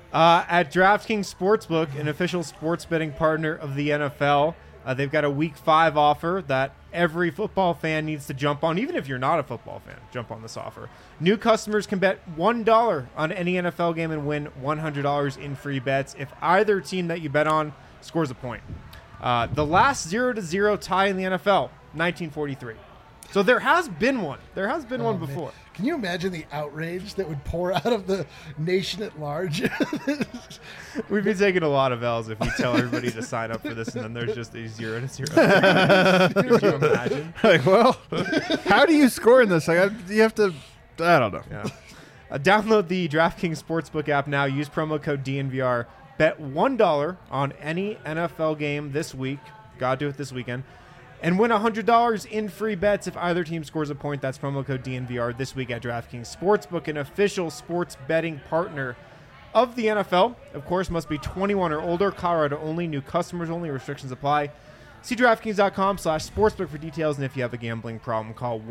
At DraftKings Sportsbook, an official sports betting partner of the NFL, they've got a Week 5 offer that every football fan needs to jump on. Even if you're not a football fan, jump on this offer. New customers can bet $1 on any NFL game and win $100 in free bets if either team that you bet on scores a point. The last 0-0 tie in the NFL, 1943. So there has been one. There has been one Man. before. Can you imagine the outrage that would pour out of the nation at large? We'd be taking a lot of L's if we tell everybody to sign up for this and then there's just a 0-0. Could you imagine? Like, well, how do you score in this? Like, you have to. I don't know. Yeah. Download the DraftKings Sportsbook app now. Use promo code DNVR. Bet $1 on any NFL game this week. Gotta do it this weekend. And win $100 in free bets if either team scores a point. That's promo code DNVR this week at DraftKings Sportsbook, an official sports betting partner of the NFL. Of course, must be 21 or older. Colorado only. New customers only. Restrictions apply. See DraftKings.com/sportsbook for details. And if you have a gambling problem, call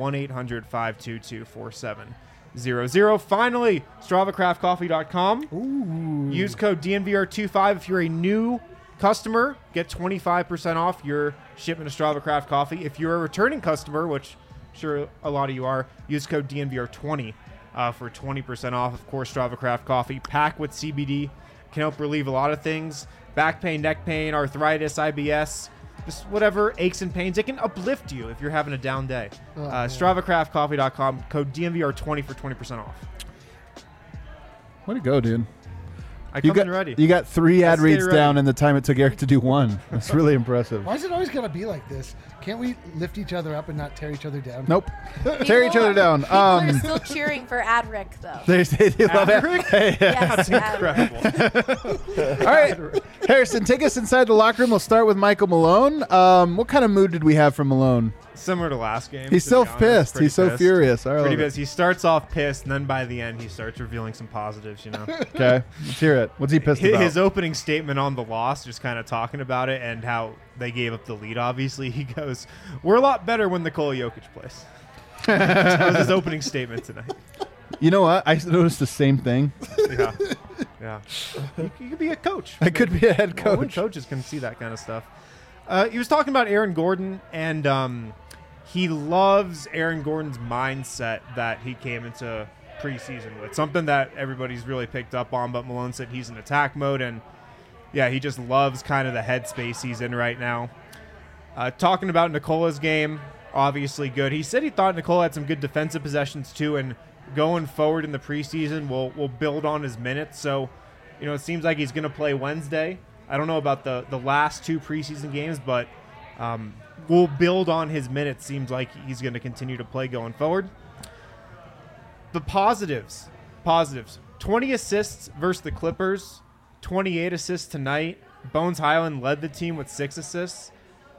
1-800-522-4700. Finally, StravaCraftCoffee.com. Use code DNVR25 if you're a new customer. Get 25% off your shipment of Strava Craft Coffee. If you're a returning customer, which I'm sure a lot of you are, use code DNVR20 for 20% off. Of course, Strava Craft Coffee, packed with CBD, can help relieve a lot of things. Back pain, neck pain, arthritis, IBS, just whatever aches and pains. It can uplift you if you're having a down day. StravaCraftCoffee.com, code DNVR20 for 20% off. Way to go, dude. I come in ready. You got 3 ad I stay reads ready. down in the time it took Eric to do 1. That's really impressive. Why is it always gotta be like this? Can't we lift each other up and not tear each other down? Nope. Tear each other down. People are still cheering for Adric, though. They love it. Adric? Hey, yeah. Yes, Adric. Incredible. All right, Harrison, take us inside the locker room. We'll start with Michael Malone. What kind of mood did we have from Malone? Similar to last game. He's to so be honest. pissed. Pretty He's so pissed. furious. I love Pretty it. pissed. He starts off pissed, and then by the end, he starts revealing some positives, you know. Okay, let's hear it. What's he pissed about? His opening statement on the loss, just kind of talking about it and how they gave up the lead, obviously. He goes, "We're a lot better when Nikola Jokic plays." That was his opening statement tonight. You know what? I noticed the same thing. Yeah. Yeah. You could be a coach. I could be a head Well, when coach. coaches can see that kind of stuff. He was talking about Aaron Gordon, and he loves Aaron Gordon's mindset that he came into preseason with. Something that everybody's really picked up on, but Malone said he's in attack mode, and yeah, he just loves kind of the headspace he's in right now. Talking about Nikola's game, obviously good. He said he thought Nikola had some good defensive possessions too, and going forward in the preseason, we'll build on his minutes. So, it seems like he's going to play Wednesday. I don't know about the last 2 preseason games, but we'll build on his minutes. Seems like he's going to continue to play going forward. The positives. 20 assists versus the Clippers, 28 assists tonight. Bones Highland led the team with 6 assists,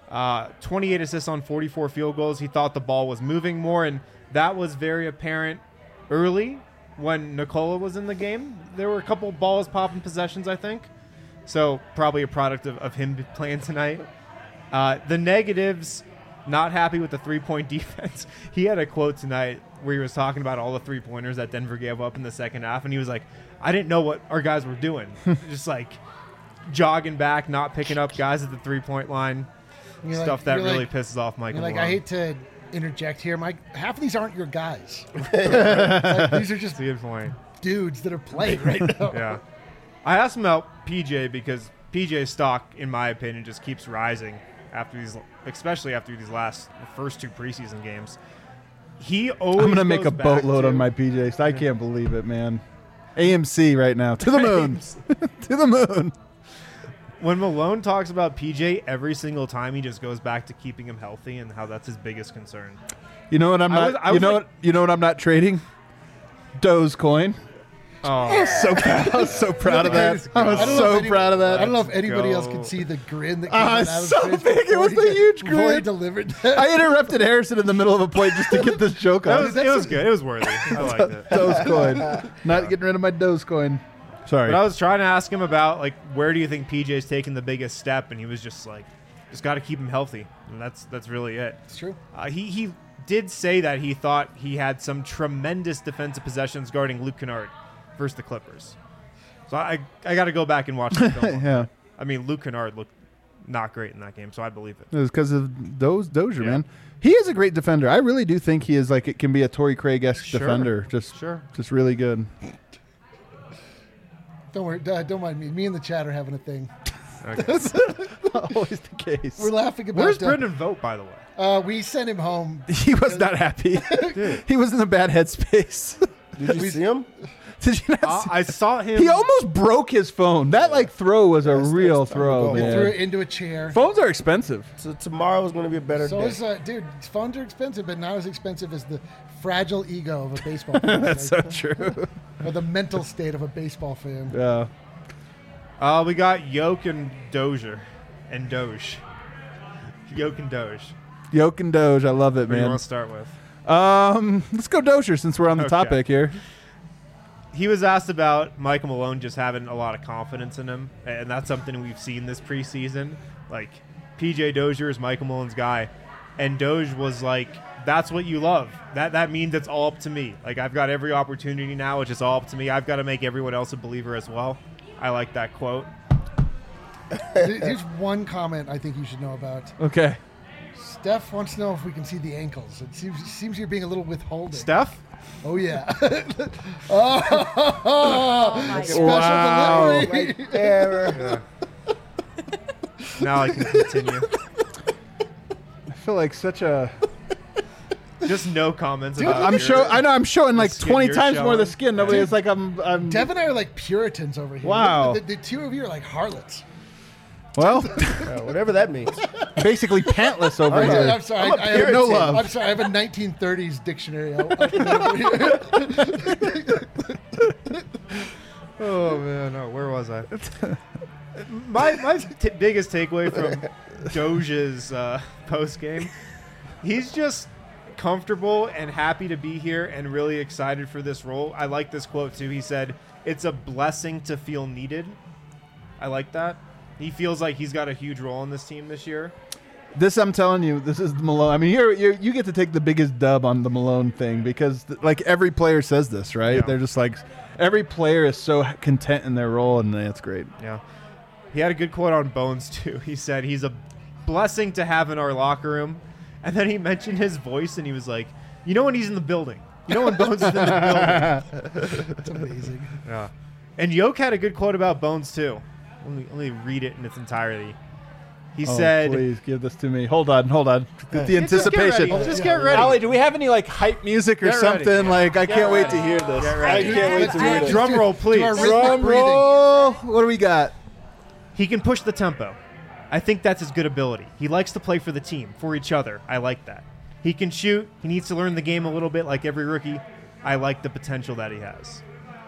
28 assists on 44 field goals. He thought the ball was moving more, and that was very apparent early when Nikola was in the game. There were a couple balls popping possessions, I think. So probably a product of him playing tonight. The negatives, not happy with the three-point defense. He had a quote tonight where he was talking about all the three-pointers that Denver gave up in the second half, and he was like, I didn't know what our guys were doing. Just like jogging back, not picking up guys at the three-point line. Stuff that really pisses off Michael Malone. I hate to interject here, Mike. Half of these aren't your guys. These are just That's a good point. dudes that are playing right now. Yeah. I asked him about PJ because PJ's stock, in my opinion, just keeps rising especially after these first 2 preseason games. He always I'm gonna make a goes back boatload to- on my PJs. I can't believe it, man. AMC right now to the moon, to the moon. When Malone talks about PJ, every single time he just goes back to keeping him healthy and how that's his biggest concern. You know what I'm not? I was like- You know what I'm not trading? Dogecoin. Oh, I was so proud of that. I was I don't know so if proud of I that. don't know if anybody else go. could see the grin that came Ah, out it's of his so face big. It before was he the did- huge before he grin. delivered that. I interrupted Harrison in the middle of a point just to get this joke it on. was good. It was worthy. I liked it. Dogecoin. Not getting rid of my Dogecoin. Sorry. But I was trying to ask him about, like, where do you think PJ's taking the biggest step? And he was just like, just got to keep him healthy. And that's really it. It's true. He did say that he thought he had some tremendous defensive possessions guarding Luke Kennard versus the Clippers. So I got to go back and watch the film. Yeah. I mean, Luke Kennard looked not great in that game, so I believe it. It was because of Dozier, Yeah. man. He is a great defender. I really do think he is it can be a Torrey Craig-esque Sure. defender. Just really good. Don't worry. Don't mind me. Me and the chat are having a thing. Okay. Always the case. We're laughing about. Where's Brendan Vogt, by the way? We sent him home. He was not happy. He was in a bad headspace. Did you see him? Did you not see? I saw him. He almost broke his phone. That throw was a real throw, They man. threw it into a chair. Phones are expensive. So tomorrow is going to be a better So day. is dude. Phones are expensive, but not as expensive as the fragile ego of a baseball fan. That's so true. Or the mental state of a baseball fan. Yeah. We got Yoke and Dozier. And Doge. Yoke and Doge. Yoke and Doge, I love it, What do you man. want to start with? Let's go Dozier since we're on the Okay. topic here. He was asked about Michael Malone just having a lot of confidence in him, and that's something we've seen this preseason. Like, PJ Dozier is Michael Malone's guy, and Doge was like, that's what you love. That means it's all up to me. Like, I've got every opportunity now. It's just all up to me. I've got to make everyone else a believer as well. I like that quote. Here's one comment I think you should know about. Okay. Steph wants to know if we can see the ankles. It seems you're being a little withholding. Steph? Oh yeah. my Special Wow. delivery. Right there. Now I can continue. I feel like such a. Just no comments about I'm your- show. I know. I'm showing like skin 20 you're times more of the showing. skin. Nobody Yeah. is like I'm. Dev and I are like Puritans over here. Wow. The two of you are like harlots. Well, Yeah, whatever that means. basically pantless over I'm here. sorry. I'm a I have no love. I'm sorry. I have a 1930s dictionary. Oh man, no, where was I? my biggest takeaway from Doge's post game, he's just comfortable and happy to be here and really excited for this role. I like this quote too. He said, "It's a blessing to feel needed." I like that. He feels like he's got a huge role in this team this year. This I'm telling you, this is the Malone. I mean, you get to take the biggest dub on the Malone thing because like every player says this, right? Yeah. They're just like every player is so content in their role, and that's great. Yeah. He had a good quote on Bones, too. He said, he's a blessing to have in our locker room. And then he mentioned his voice, and he was like, you know when he's in the building, You know when Bones is in the building. It's amazing. Yeah. And Yoke had a good quote about Bones too. Let me read it in its entirety. He said, "Please give this to me." Hold on. The Just anticipation. get ready. Just get ready. Allie, do we have any like hype music or Get ready. something? Like, I can't wait to ready. hear this. Get I ready. can't wait to hear this. Drum roll, please. Do our rhythmic Drum breathing. roll. What do we got? He can push the tempo. I think that's his good ability. He likes to play for the team, for each other. I like that. He can shoot. He needs to learn the game a little bit like every rookie. I like the potential that he has.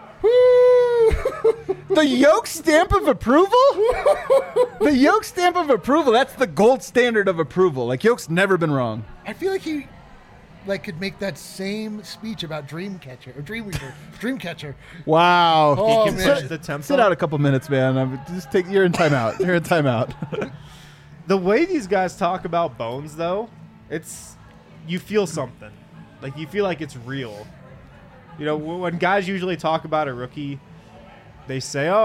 The Yoke stamp of approval? The Yoke stamp of approval. That's the gold standard of approval. Like, Yoke's never been wrong. I feel like he could make that same speech about Dreamcatcher or Dreamcatcher. Wow. Oh, He can man. push the tempo. Sit out a couple minutes, man. You're in timeout. You're in timeout. The way these guys talk about Bones, though, you feel something. Like, you feel like it's real. You know, when guys usually talk about a rookie, they say, "Oh,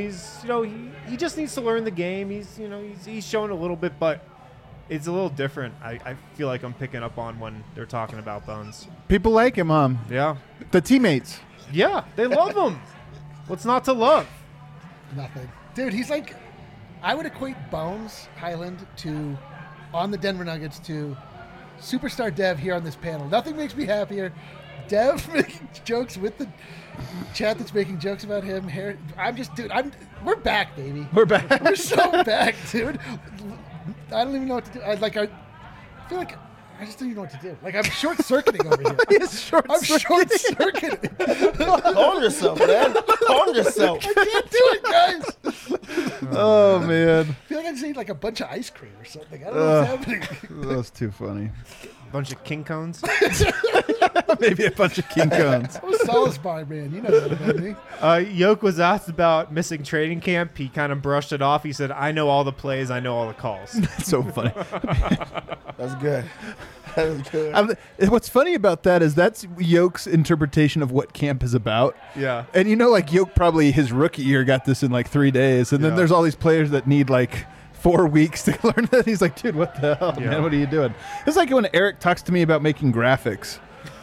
he just needs to learn the game. He's shown a little bit, but it's a little different." I feel like I'm picking up on when they're talking about Bones. People like him, Yeah, the teammates. yeah, they love him. What's not to love? Nothing. Dude, he's like, I would equate Bones Highland on the Denver Nuggets to superstar Dev here on this panel. Nothing makes me happier. Dev making jokes with the chat that's making jokes about him. We're back, baby. We're back. We're so back, dude. I don't even know what to do. I feel like I just don't even know what to do. Like, I'm short-circuiting over here. I'm short-circuiting. Calm yourself, man. Calm yourself. I can't do it, guys. Oh, man. I feel like I just ate like a bunch of ice cream or something. I don't know what's happening. That's too funny. Bunch of king cones. Maybe a bunch of King Cones. I'm a Solace Bar man. You know that about me. Yoke was asked about missing training camp. He kind of brushed it off. He said, "I know all the plays. I know all the calls." That's so funny. That's good. That was good. What's funny about that is that's Yoke's interpretation of what camp is about. Yeah. And like Yoke probably his rookie year got this in like 3 days. And then Yeah. there's all these players that need like 4 weeks to learn that. He's like, dude, what the hell, Yeah. man? What are you doing? It's like when Eric talks to me about making graphics.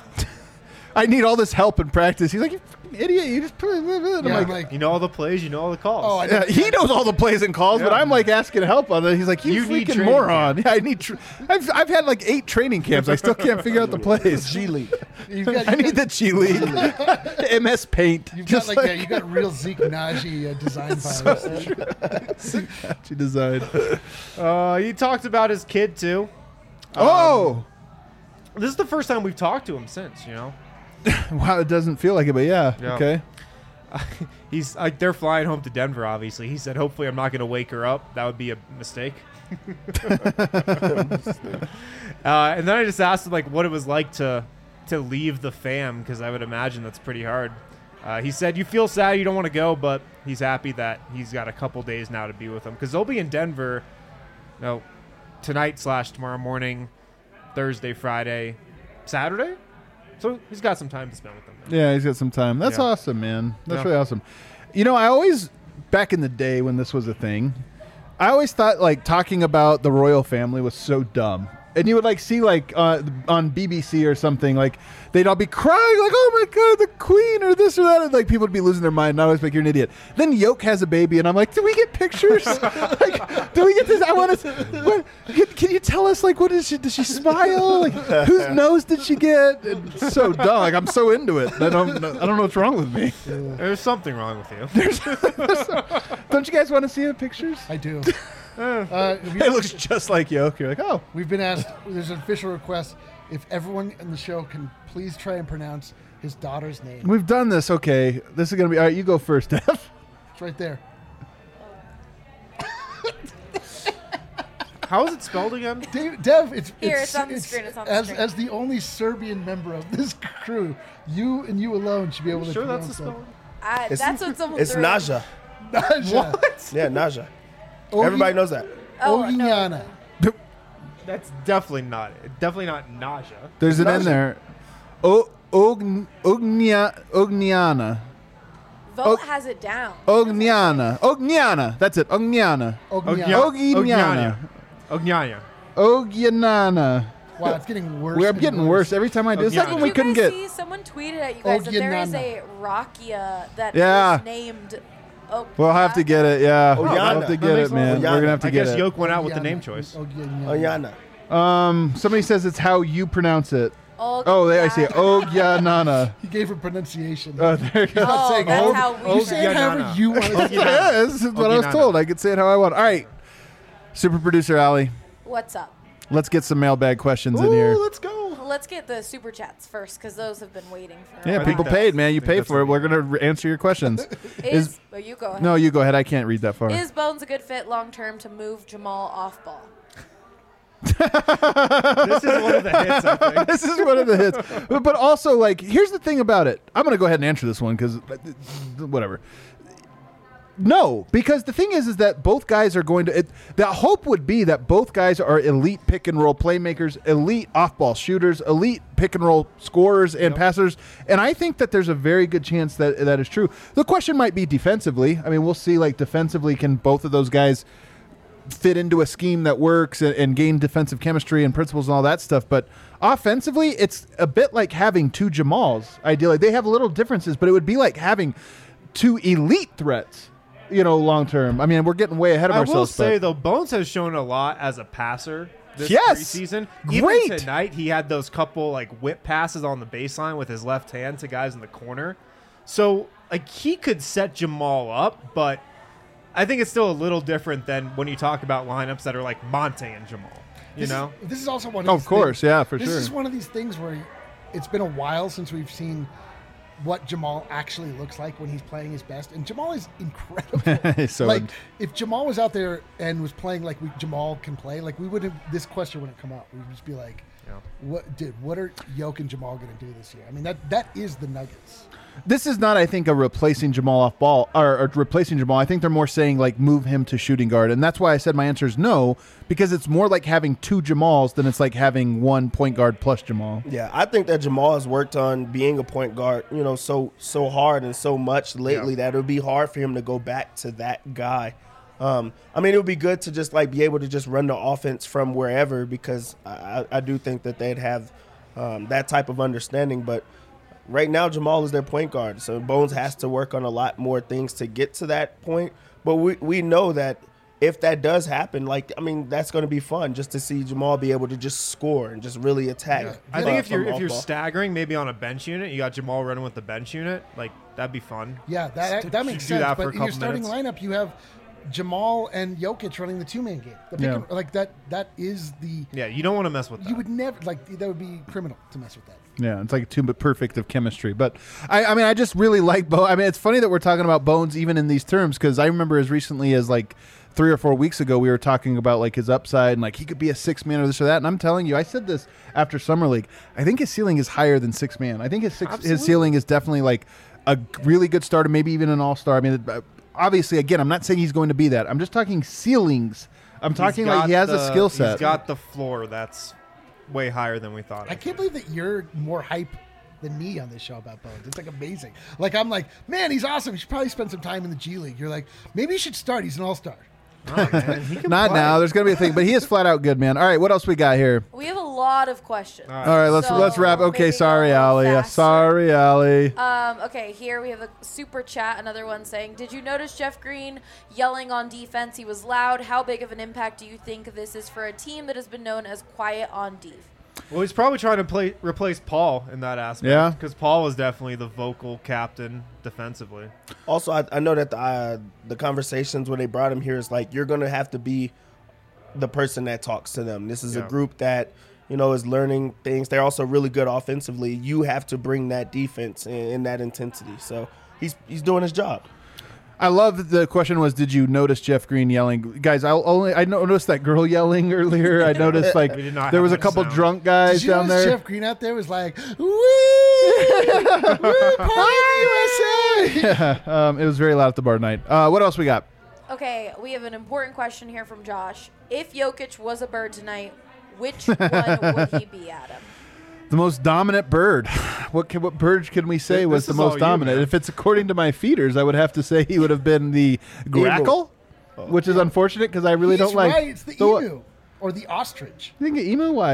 I need all this help and practice. He's like, you fucking idiot. You just put it. I'm Yeah, like, You know all the plays. You know all the calls. Oh, I know. yeah, he knows all the plays and calls, but Yeah. I'm like asking help on it. He's like, you You need freaking training moron. Yeah, I need. I've had like 8 training camps. I still can't figure out the plays. G League. You've I need the G League, MS Paint. You've got you got real Zeke Naji design files. She designed. He talked about his kid too. Oh, This is the first time we've talked to him since. wow! It doesn't feel like it, but yeah. Yeah. Okay. He's like, they're flying home to Denver. Obviously, he said, "Hopefully, I'm not going to wake her up. That would be a mistake." And then I just asked him like what it was like to leave the fam, because I would imagine that's pretty hard. He said, "You feel sad, you don't want to go, but he's happy that he's got a couple days now to be with them, because they'll be in Denver, tonight/tomorrow morning, Thursday, Friday, Saturday. So he's got some time to spend with them. Now. Yeah, he's got some time. That's Yeah. awesome, man. That's Yeah. really awesome. I always, back in the day when this was a thing, I always thought like talking about the royal family was so dumb. And you would like see like on BBC or something, like they'd all be crying like, "Oh my God, the Queen," or this or that, and like people would be losing their mind. And I always think you're an idiot. Then Yoke has a baby, and I'm like, "Do we get pictures? Like, do we get this? I want to. Can you tell us like what is she? Does she smile? Like whose nose did she get?" It's so dumb. Like I'm so into it. I don't know what's wrong with me. There's something wrong with you. Don't you guys want to see the pictures? I do. It looks just like Yoke. You're like, oh. We've been asked. There's an official request. If everyone in the show can please try and pronounce his daughter's name. We've done this. Okay. This is going to be... All right, you go first, Dev. It's right there. How is it spelled again? Dev, it's Here, it's on the screen, it's on the screen. As the only Serbian member of this crew, you and you alone should be able to Sure, that's the pronounce spelling. That's what someone It's threw. Naja. that. Naja. Yeah, Naja. Ogi- Everybody knows that. Oh, no. Ogiana. That's definitely not it. Definitely not nausea. There's an N there. Ogniana. Vote has it down. Ogniana. That's it. Ogniana. Ogiana. Ogiana. Ognania. Ogianana. Wow, it's getting worse. We're and getting worse every time I do. It's like Ogiana. when we you couldn't guys get. see someone tweeted at you guys that there is a Rakia that Yeah. is named. Oh, We'll have to get it. Yeah, we'll Ogiana. have to That get makes it, man. sense. We're gonna have to I get guess it. Yoke went out with the name choice. Oyana. Somebody says it's how you pronounce it. Oh, I see. Ogyanana. He gave a pronunciation. Oh, there you go. Oh, saying that's Og- how we you Og- say it however Ogiana. you want to say it. Yeah, this is what I was Ogiana. told. I could say it how I want. All right, super producer Allie, What's up? let's get some mailbag questions in here. Let's go. Let's get the super chats first because those have been waiting for. Yeah, a I people think while. paid, man. You I think pay that's for it. what We're gonna answer your questions. Oh, you go ahead. No, you go ahead. I can't read that far. Is Bones a good fit long term to move Jamal off ball? This is one of the hits, I think. This is one of the hits. But also, like, here's the thing about it. I'm going to go ahead and answer this one because whatever. No, because the thing is that both guys are going to. The hope would be that both guys are elite pick and roll playmakers, elite off ball shooters, elite pick and roll scorers and passers. And I think that there's a very good chance that that is true. The question might be defensively. I mean, we'll see, like, defensively, can both of those guys fit into a scheme that works and gain defensive chemistry and principles and all that stuff. But offensively, it's a bit like having two Jamals, ideally. They have little differences, but it would be like having two elite threats, long term. I mean, we're getting way ahead of I ourselves. will say, but though, Bones has shown a lot as a passer this Yes! preseason. Great! Even tonight, he had those couple, like, whip passes on the baseline with his left hand to guys in the corner. So, like, he could set Jamal up, but I think it's still a little different than when you talk about lineups that are like Monte and Jamal. This is also one of Oh, these of course, things- yeah, for This sure. is one of these things where it's been a while since we've seen what Jamal actually looks like when he's playing his best. And Jamal is incredible. So like, if Jamal was out there and was playing like Jamal can play, like, we wouldn't, this question wouldn't come up. We would just be like, what are Yoke and Jamal going to do this year? I mean, that is the Nuggets. This is not, I think, a replacing Jamal off ball or replacing Jamal. I think they're more saying, like, move him to shooting guard. And that's why I said my answer is no, because it's more like having two Jamals than it's like having one point guard plus Jamal. Yeah, I think that Jamal has worked on being a point guard, so hard and so much lately that it would be hard for him to go back to that guy. I mean, it would be good to just, like, be able to just run the offense from wherever, because I do think that they'd have that type of understanding. But right now, Jamal is their point guard, so Bones has to work on a lot more things to get to that point. But we know that if that does happen, that's going to be fun just to see Jamal be able to just score and just really attack. Yeah. I think if from you're off-ball. staggering maybe on a bench unit, you got Jamal running with the bench unit, like, that'd be fun. Yeah, that makes do sense. that for But a in your couple starting minutes. lineup, you have Jamal and Jokic running the two-man game. The pick Yeah. and, like, that is the Yeah, you don't want to mess with that. you would never, like, that would be criminal to mess with that. Yeah, it's like too perfect of chemistry. But I mean, I just really like Bones. I mean, it's funny that we're talking about Bones even in these terms, because I remember as recently as like 3 or 4 weeks ago, we were talking about like his upside and like he could be a 6-man or this or that. And I'm telling you, I said this after Summer League. I think his ceiling is higher than 6-man. I think his ceiling is definitely like a really good starter, maybe even an all-star. I mean, obviously, again, I'm not saying he's going to be that. I'm just talking ceilings. I'm talking like he has a skill set. He's got the floor that's way higher than we thought. I can't believe that you're more hype than me on this show about Bones. It's like amazing. Like, I'm like, man, he's awesome. He should probably spend some time in the G League. You're like, maybe he should start. He's an all-star. Not now. There's going to be a thing, but he is flat out good, man. All right, what else we got here? We have a lot of questions. All right, let's wrap. Okay, maybe sorry, go a little Allie. faster. Sorry, Allie. Okay, here we have a super chat. Another one saying, "Did you notice Jeff Green yelling on defense? He was loud. How big of an impact do you think this is for a team that has been known as quiet on def?" Well, he's probably trying to replace Paul in that aspect. Yeah. Because Paul was definitely the vocal captain defensively. Also, I know that the conversations when they brought him here is like, you're going to have to be the person that talks to them. This is a Yeah. group that, is learning things. They're also really good offensively. You have to bring that defense in that intensity. So he's doing his job. I love the question was, did you notice Jeff Green yelling? Guys, I noticed that girl yelling earlier. I noticed like We did not there have was a much couple sound. drunk guys Did you down notice there. Jeff Green out there was like, woo, woo, party USA. Yeah, it was very loud at the bar tonight. What else we got? Okay, we have an important question here from Josh. If Jokic was a bird tonight, which one would he be, Adam? The most dominant bird. What bird can we say was This the is all most you, dominant? man. If it's according to my feeders, I would have to say he would have been the grackle, which is unfortunate because I really He's don't like. right. It's the So- emu or the ostrich. You think emu? Why?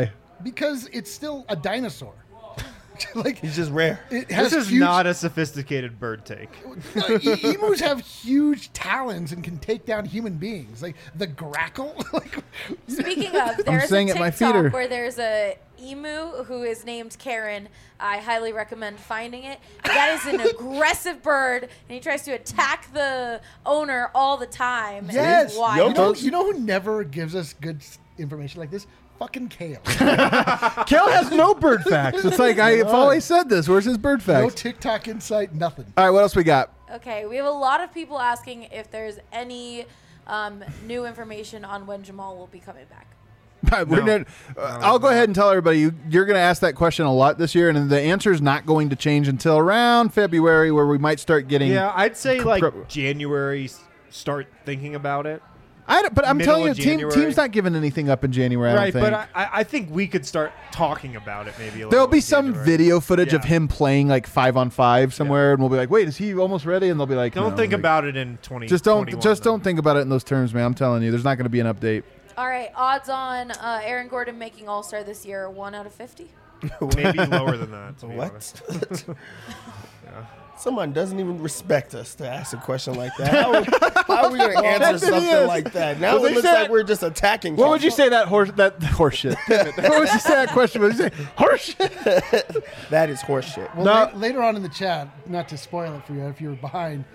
because it's still a dinosaur. Like He's just rare. it has This is huge, not a sophisticated bird take. emus have huge talons and can take down human beings. Like the grackle. Like, Speaking of, there's a saying it, my feet are- TikTok where there's a emu who is named Karen. I highly recommend finding it. That is an aggressive bird, and he tries to attack the owner all the time. and yes. it's wild. You know who never gives us good information like this? Fucking Kale. Kale has no bird facts. It's like I've always said this. Where's his bird No facts? TikTok insight, nothing. All right, what else we got? Okay, we have a lot of people asking if there's any new information on when Jamal will be coming back. I'll go ahead and tell everybody you're going to ask that question a lot this year, and the answer is not going to change until around February, where we might start getting. Yeah, I'd say like January, start thinking about it. But I'm Middle telling you, of January. team's not giving anything up in January. I Right, don't think. but I think we could start talking about it maybe a little. There'll be in some January. video footage of Yeah. him playing like 5-on-5 somewhere, and we'll be like, "Wait, is he almost ready?" And they'll be like, Don't "No." think Like, about it in 20. Just don't think about it in those terms, man. I'm telling you, there's not going to be an update. All right, odds on Aaron Gordon making All-Star this year, 1 out of 50. Maybe lower than that. To be honest. What? Someone doesn't even respect us to ask a question like that. How are we going to answer Yes, it something is. like that? Now Well, they it looks said- like we're just attacking. What would you people. say that horse shit? Damn it. What would you say that question? What would you say horse shit? That is horseshit. Well, No. later on in the chat, not to spoil it for you if you were behind,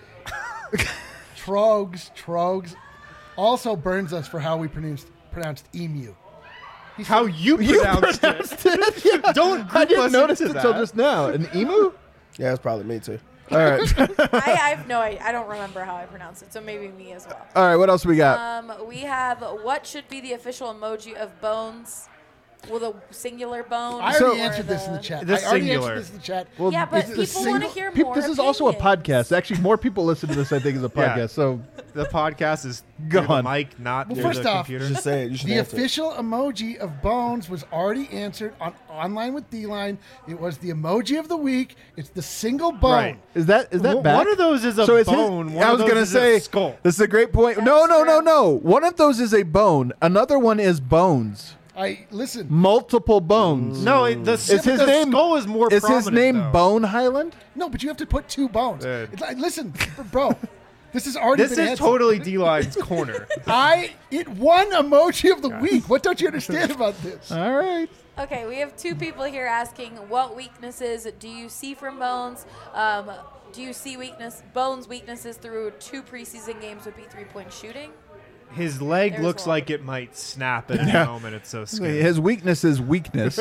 Trogs also burns us for how we pronounced emu. How you pronounced it. Don't group I didn't us notice into it until that. just now. An emu? Yeah, it's probably me too. All right. I have no idea. I don't remember how I pronounce it, so maybe me as well. All right. What else we got? We have what should be the official emoji of bones with a singular bone. I So- already answered this in the chat. The I already singular. answered this in the chat. Well, yeah, but is it a people want to single- hear more. This is also a opinions. podcast. Actually, more people listen to this, I think, as a Yeah. podcast. So The podcast is Go through on. the mic, not Well, through first the off, computer. Just say it. You should The answer it. official emoji of bones was already answered on online with D-Line. It was the emoji of the week. It's the single bone. Right. is that Well, back? one of those is a So it's his- bone. One I of was those gonna is say a skull. this is a great point. No, That's no, no, true. no. One of those is a bone. Another one is bones. Listen. Multiple bones. No, Is his the name skull is more Is prominent, his name though. Bone Highland? No, but you have to put two bones. Yeah. It's like, listen, bro. This has already This been is answered. totally D-Line's corner. It won emoji of the week. What don't you understand about this? All right. Okay, we have two people here asking what weaknesses do you see from Bones? Do you see Bones' weaknesses through 2 preseason games would be 3-point shooting? His leg There's looks one. like it might snap at any moment. It's so scary. His weakness is weakness.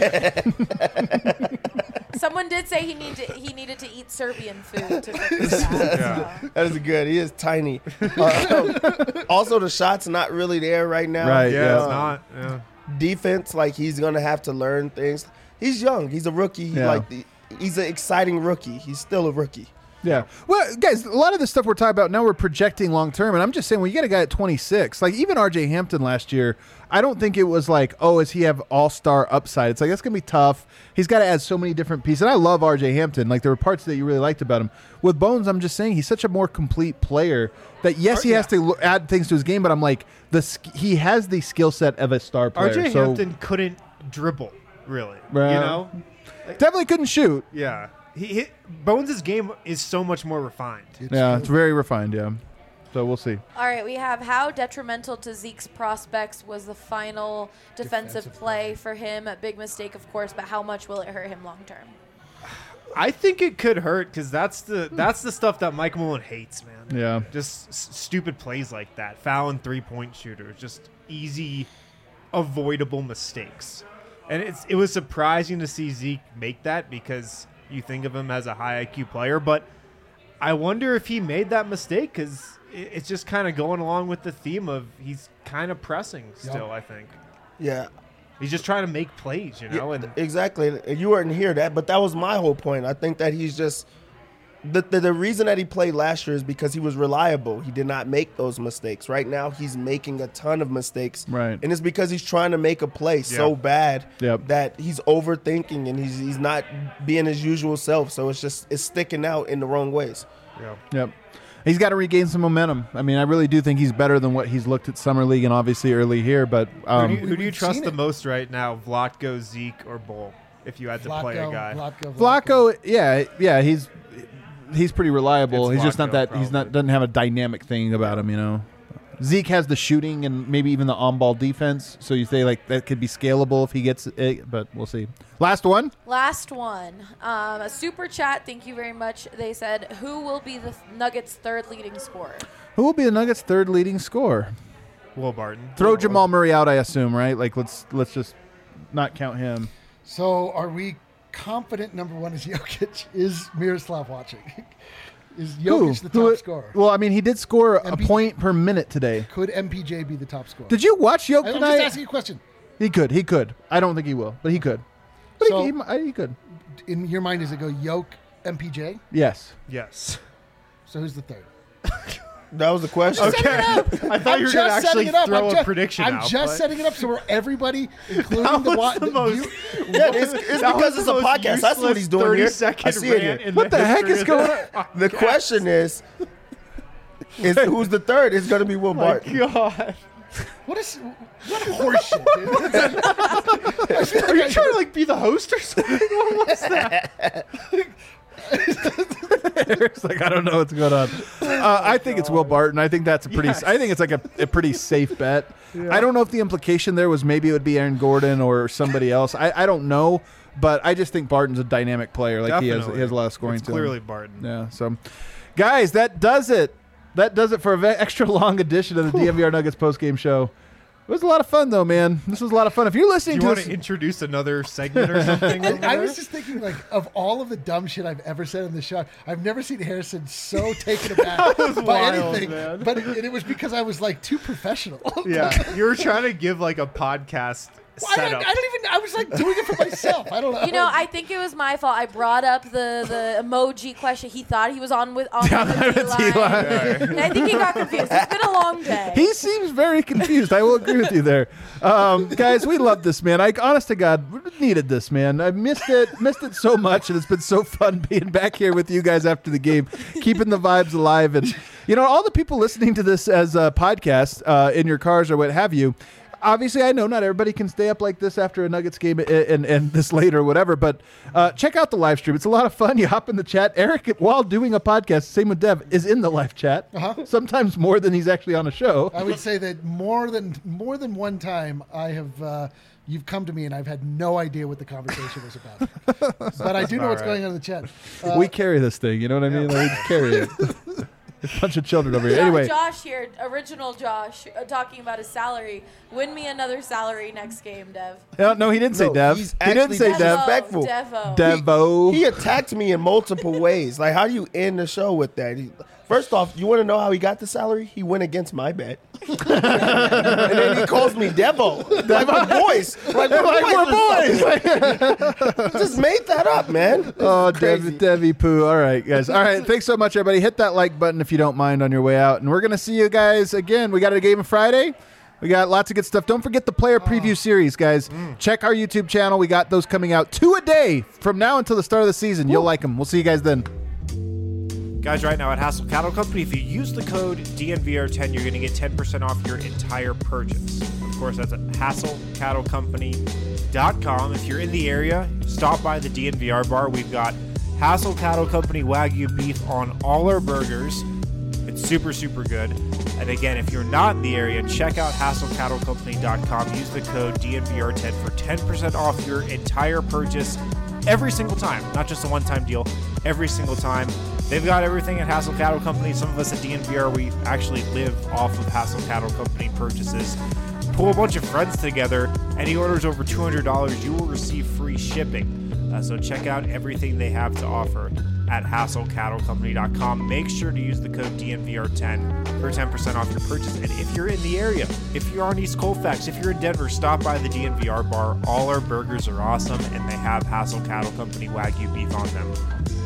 Someone did say he needed to eat Serbian food to fix that. Yeah. so. That is good. He is tiny. Also, the shot's not really there right now. Right. Yeah, Yeah. it's not. Yeah. Defense, like he's gonna have to learn things. He's young. He's a rookie. Yeah. He's an exciting rookie. He's still a rookie. Yeah. Well, guys, a lot of the stuff we're talking about now, we're projecting long term, and I'm just saying, when you get a guy at 26, like even R.J. Hampton last year, I don't think it was like, oh, does he have all-star upside? It's like that's gonna be tough. He's got to add so many different pieces. And I love R.J. Hampton. Like there were parts that you really liked about him. With Bones, I'm just saying he's such a more complete player that yes, he has to add things to his game, but I'm like he has the skill set of a star player. RJ so Hampton couldn't dribble, really. Well, you know? definitely couldn't shoot. Yeah. Bones' game is so much more refined. Yeah, it's very refined. Yeah. So we'll see. All right, we have how detrimental to Zeke's prospects was the final defensive play for him. A big mistake, of course, but how much will it hurt him long term? I think it could hurt because that's the stuff that Mike Malone hates, man. Yeah. Just stupid plays like that, fouling 3-point shooters, just easy, avoidable mistakes. And it was surprising to see Zeke make that because you think of him as a high IQ player, but I wonder if he made that mistake because it's just kind of going along with the theme of he's kind of pressing still. I think Yeah. he's just trying to make plays, you know. Yeah, And exactly. You weren't here but that was my whole point. I think that he's just the reason that he played last year is because he was reliable. He did not make those mistakes. Right now, he's making a ton of mistakes. Right. And it's because he's trying to make a play so bad Yep. that he's overthinking and he's not being his usual self. So it's sticking out in the wrong ways. yeah. Yep. He's got to regain some momentum. I mean, I really do think he's better than what he's looked at Summer League and obviously early here. But Who do you We've trust seen the it. most right now, Vlatko, Zeke, or Bull, if you had to play a guy? Vlatko, yeah, he's pretty reliable. It's he's just not Vlatko, that he's not probably. doesn't have a dynamic thing about him, you know. Zeke has the shooting and maybe even the on-ball defense, so you say like that could be scalable if he gets it, but we'll see. Last one. Last one. A super chat. Thank you very much. They said, who will be the Nuggets' third leading scorer? Who will be the Nuggets' third leading scorer? Will Barton. Throw Jamal Murray out, I assume, right? Like let's just not count him. So are we confident number one is Jokic? Is Miroslav watching? Is Jokic the top scorer? Well, I mean, he did score a MPJ point per minute today. Could MPJ be the top scorer? Did you watch Jokic I'm tonight? just asking you a question. He could. I don't think he will, but he could. But So- he could. In your mind, does it go Jokic, MPJ? Yes. Yes. So who's the third? That was the question. Okay. I thought you were going to actually throw a prediction I'm out. just but- setting it up so we're everybody, including That the, was the most- Yeah, it's That because was it's the a most podcast. I see what he's doing here. 30-second I see it rant here. in What the heck history is of going this on? The question is who's the third? It's going to be Will Barton. God. what horseshit, dude? Are you trying to like be the host or something? What was that? Eric's like, I don't know what's going on. I think it's Will Barton. I think that's a pretty. Yes. I think it's like a pretty safe bet. I don't know if the implication there was maybe it would be Aaron Gordon or somebody else. I don't know, but I just think Barton's a dynamic player. Like he has a lot of scoring It's to clearly him. Barton. Yeah. So, guys, that does it. That does it for an extra long edition of the DNVR Nuggets postgame show. It was a lot of fun, though, man. This was a lot of fun. If you're Do listening you to want this, to introduce another segment or something? over I there? was just thinking, like, of all of the dumb shit I've ever said in the show, I've never seen Harrison so taken aback by wild, anything. man. But it was because I was like too professional. Yeah, you were trying to give like a podcast Well, I setup. was like doing it for myself. I don't know. You know, I think it was my fault. I brought up the emoji question. He thought he was on the line. And I think he got confused. It's been a long day. he seems very confused. I will agree with you there. Guys, we love this, man. Honest to God, we needed this, man. I missed it so much, and it's been so fun being back here with you guys after the game, keeping the vibes alive. And, you know, all the people listening to this as a podcast in your cars or what have you, obviously, I know not everybody can stay up like this after a Nuggets game and this late or whatever, but check out the live stream. It's a lot of fun. You hop in the chat. Eric, while doing a podcast, same with Dev, is in the live chat. Sometimes more than he's actually on a show. I would say that more than one time I have you've come to me and I've had no idea what the conversation was about. But I do know what's going on in the chat. We carry this thing. You know what I mean? Like, we just carry it. A bunch of children over here. Anyway, Josh here, original Josh, talking about his salary. Win me another salary next game, Dev. no, he didn't say No, Dev. he's He didn't actually say Devo. Dev. Disrespectful. Devo. Devo. He attacked me in multiple ways. Like, how do you end the show with that? First off, you want to know how he got the salary? He went against my bet. And then he calls me Devo. Like my boys. Like we're boys. Just made that up, man. Oh, crazy. Devi Poo. All right, guys. All right. Thanks so much, everybody. Hit that like button if you don't mind on your way out. And we're going to see you guys again. We got a game on Friday. We got lots of good stuff. Don't forget the player preview series, guys. Check our YouTube channel. We got those coming out 2 a day from now until the start of the season. You'll like them. We'll see you guys then. Guys, right now at Hassel Cattle Company, if you use the code DNVR10, you're going to get 10% off your entire purchase. Of course, that's at HassleCattleCompany.com. If you're in the area, stop by the DNVR bar. We've got Hassel Cattle Company Wagyu beef on all our burgers. It's super, super good. And again, if you're not in the area, check out HassleCattleCompany.com. Use the code DNVR10 for 10% off your entire purchase every single time. Not just a one-time deal, every single time. They've got everything at Hassel Cattle Company. Some of us at DNVR, we actually live off of Hassel Cattle Company purchases. Pull a bunch of friends together. Any orders over $200, you will receive free shipping. So check out everything they have to offer at HassleCattleCompany.com. Make sure to use the code DNVR10 for 10% off your purchase. And if you're in the area, if you're on East Colfax, if you're in Denver, stop by the DNVR bar. All our burgers are awesome, and they have Hassel Cattle Company Wagyu beef on them.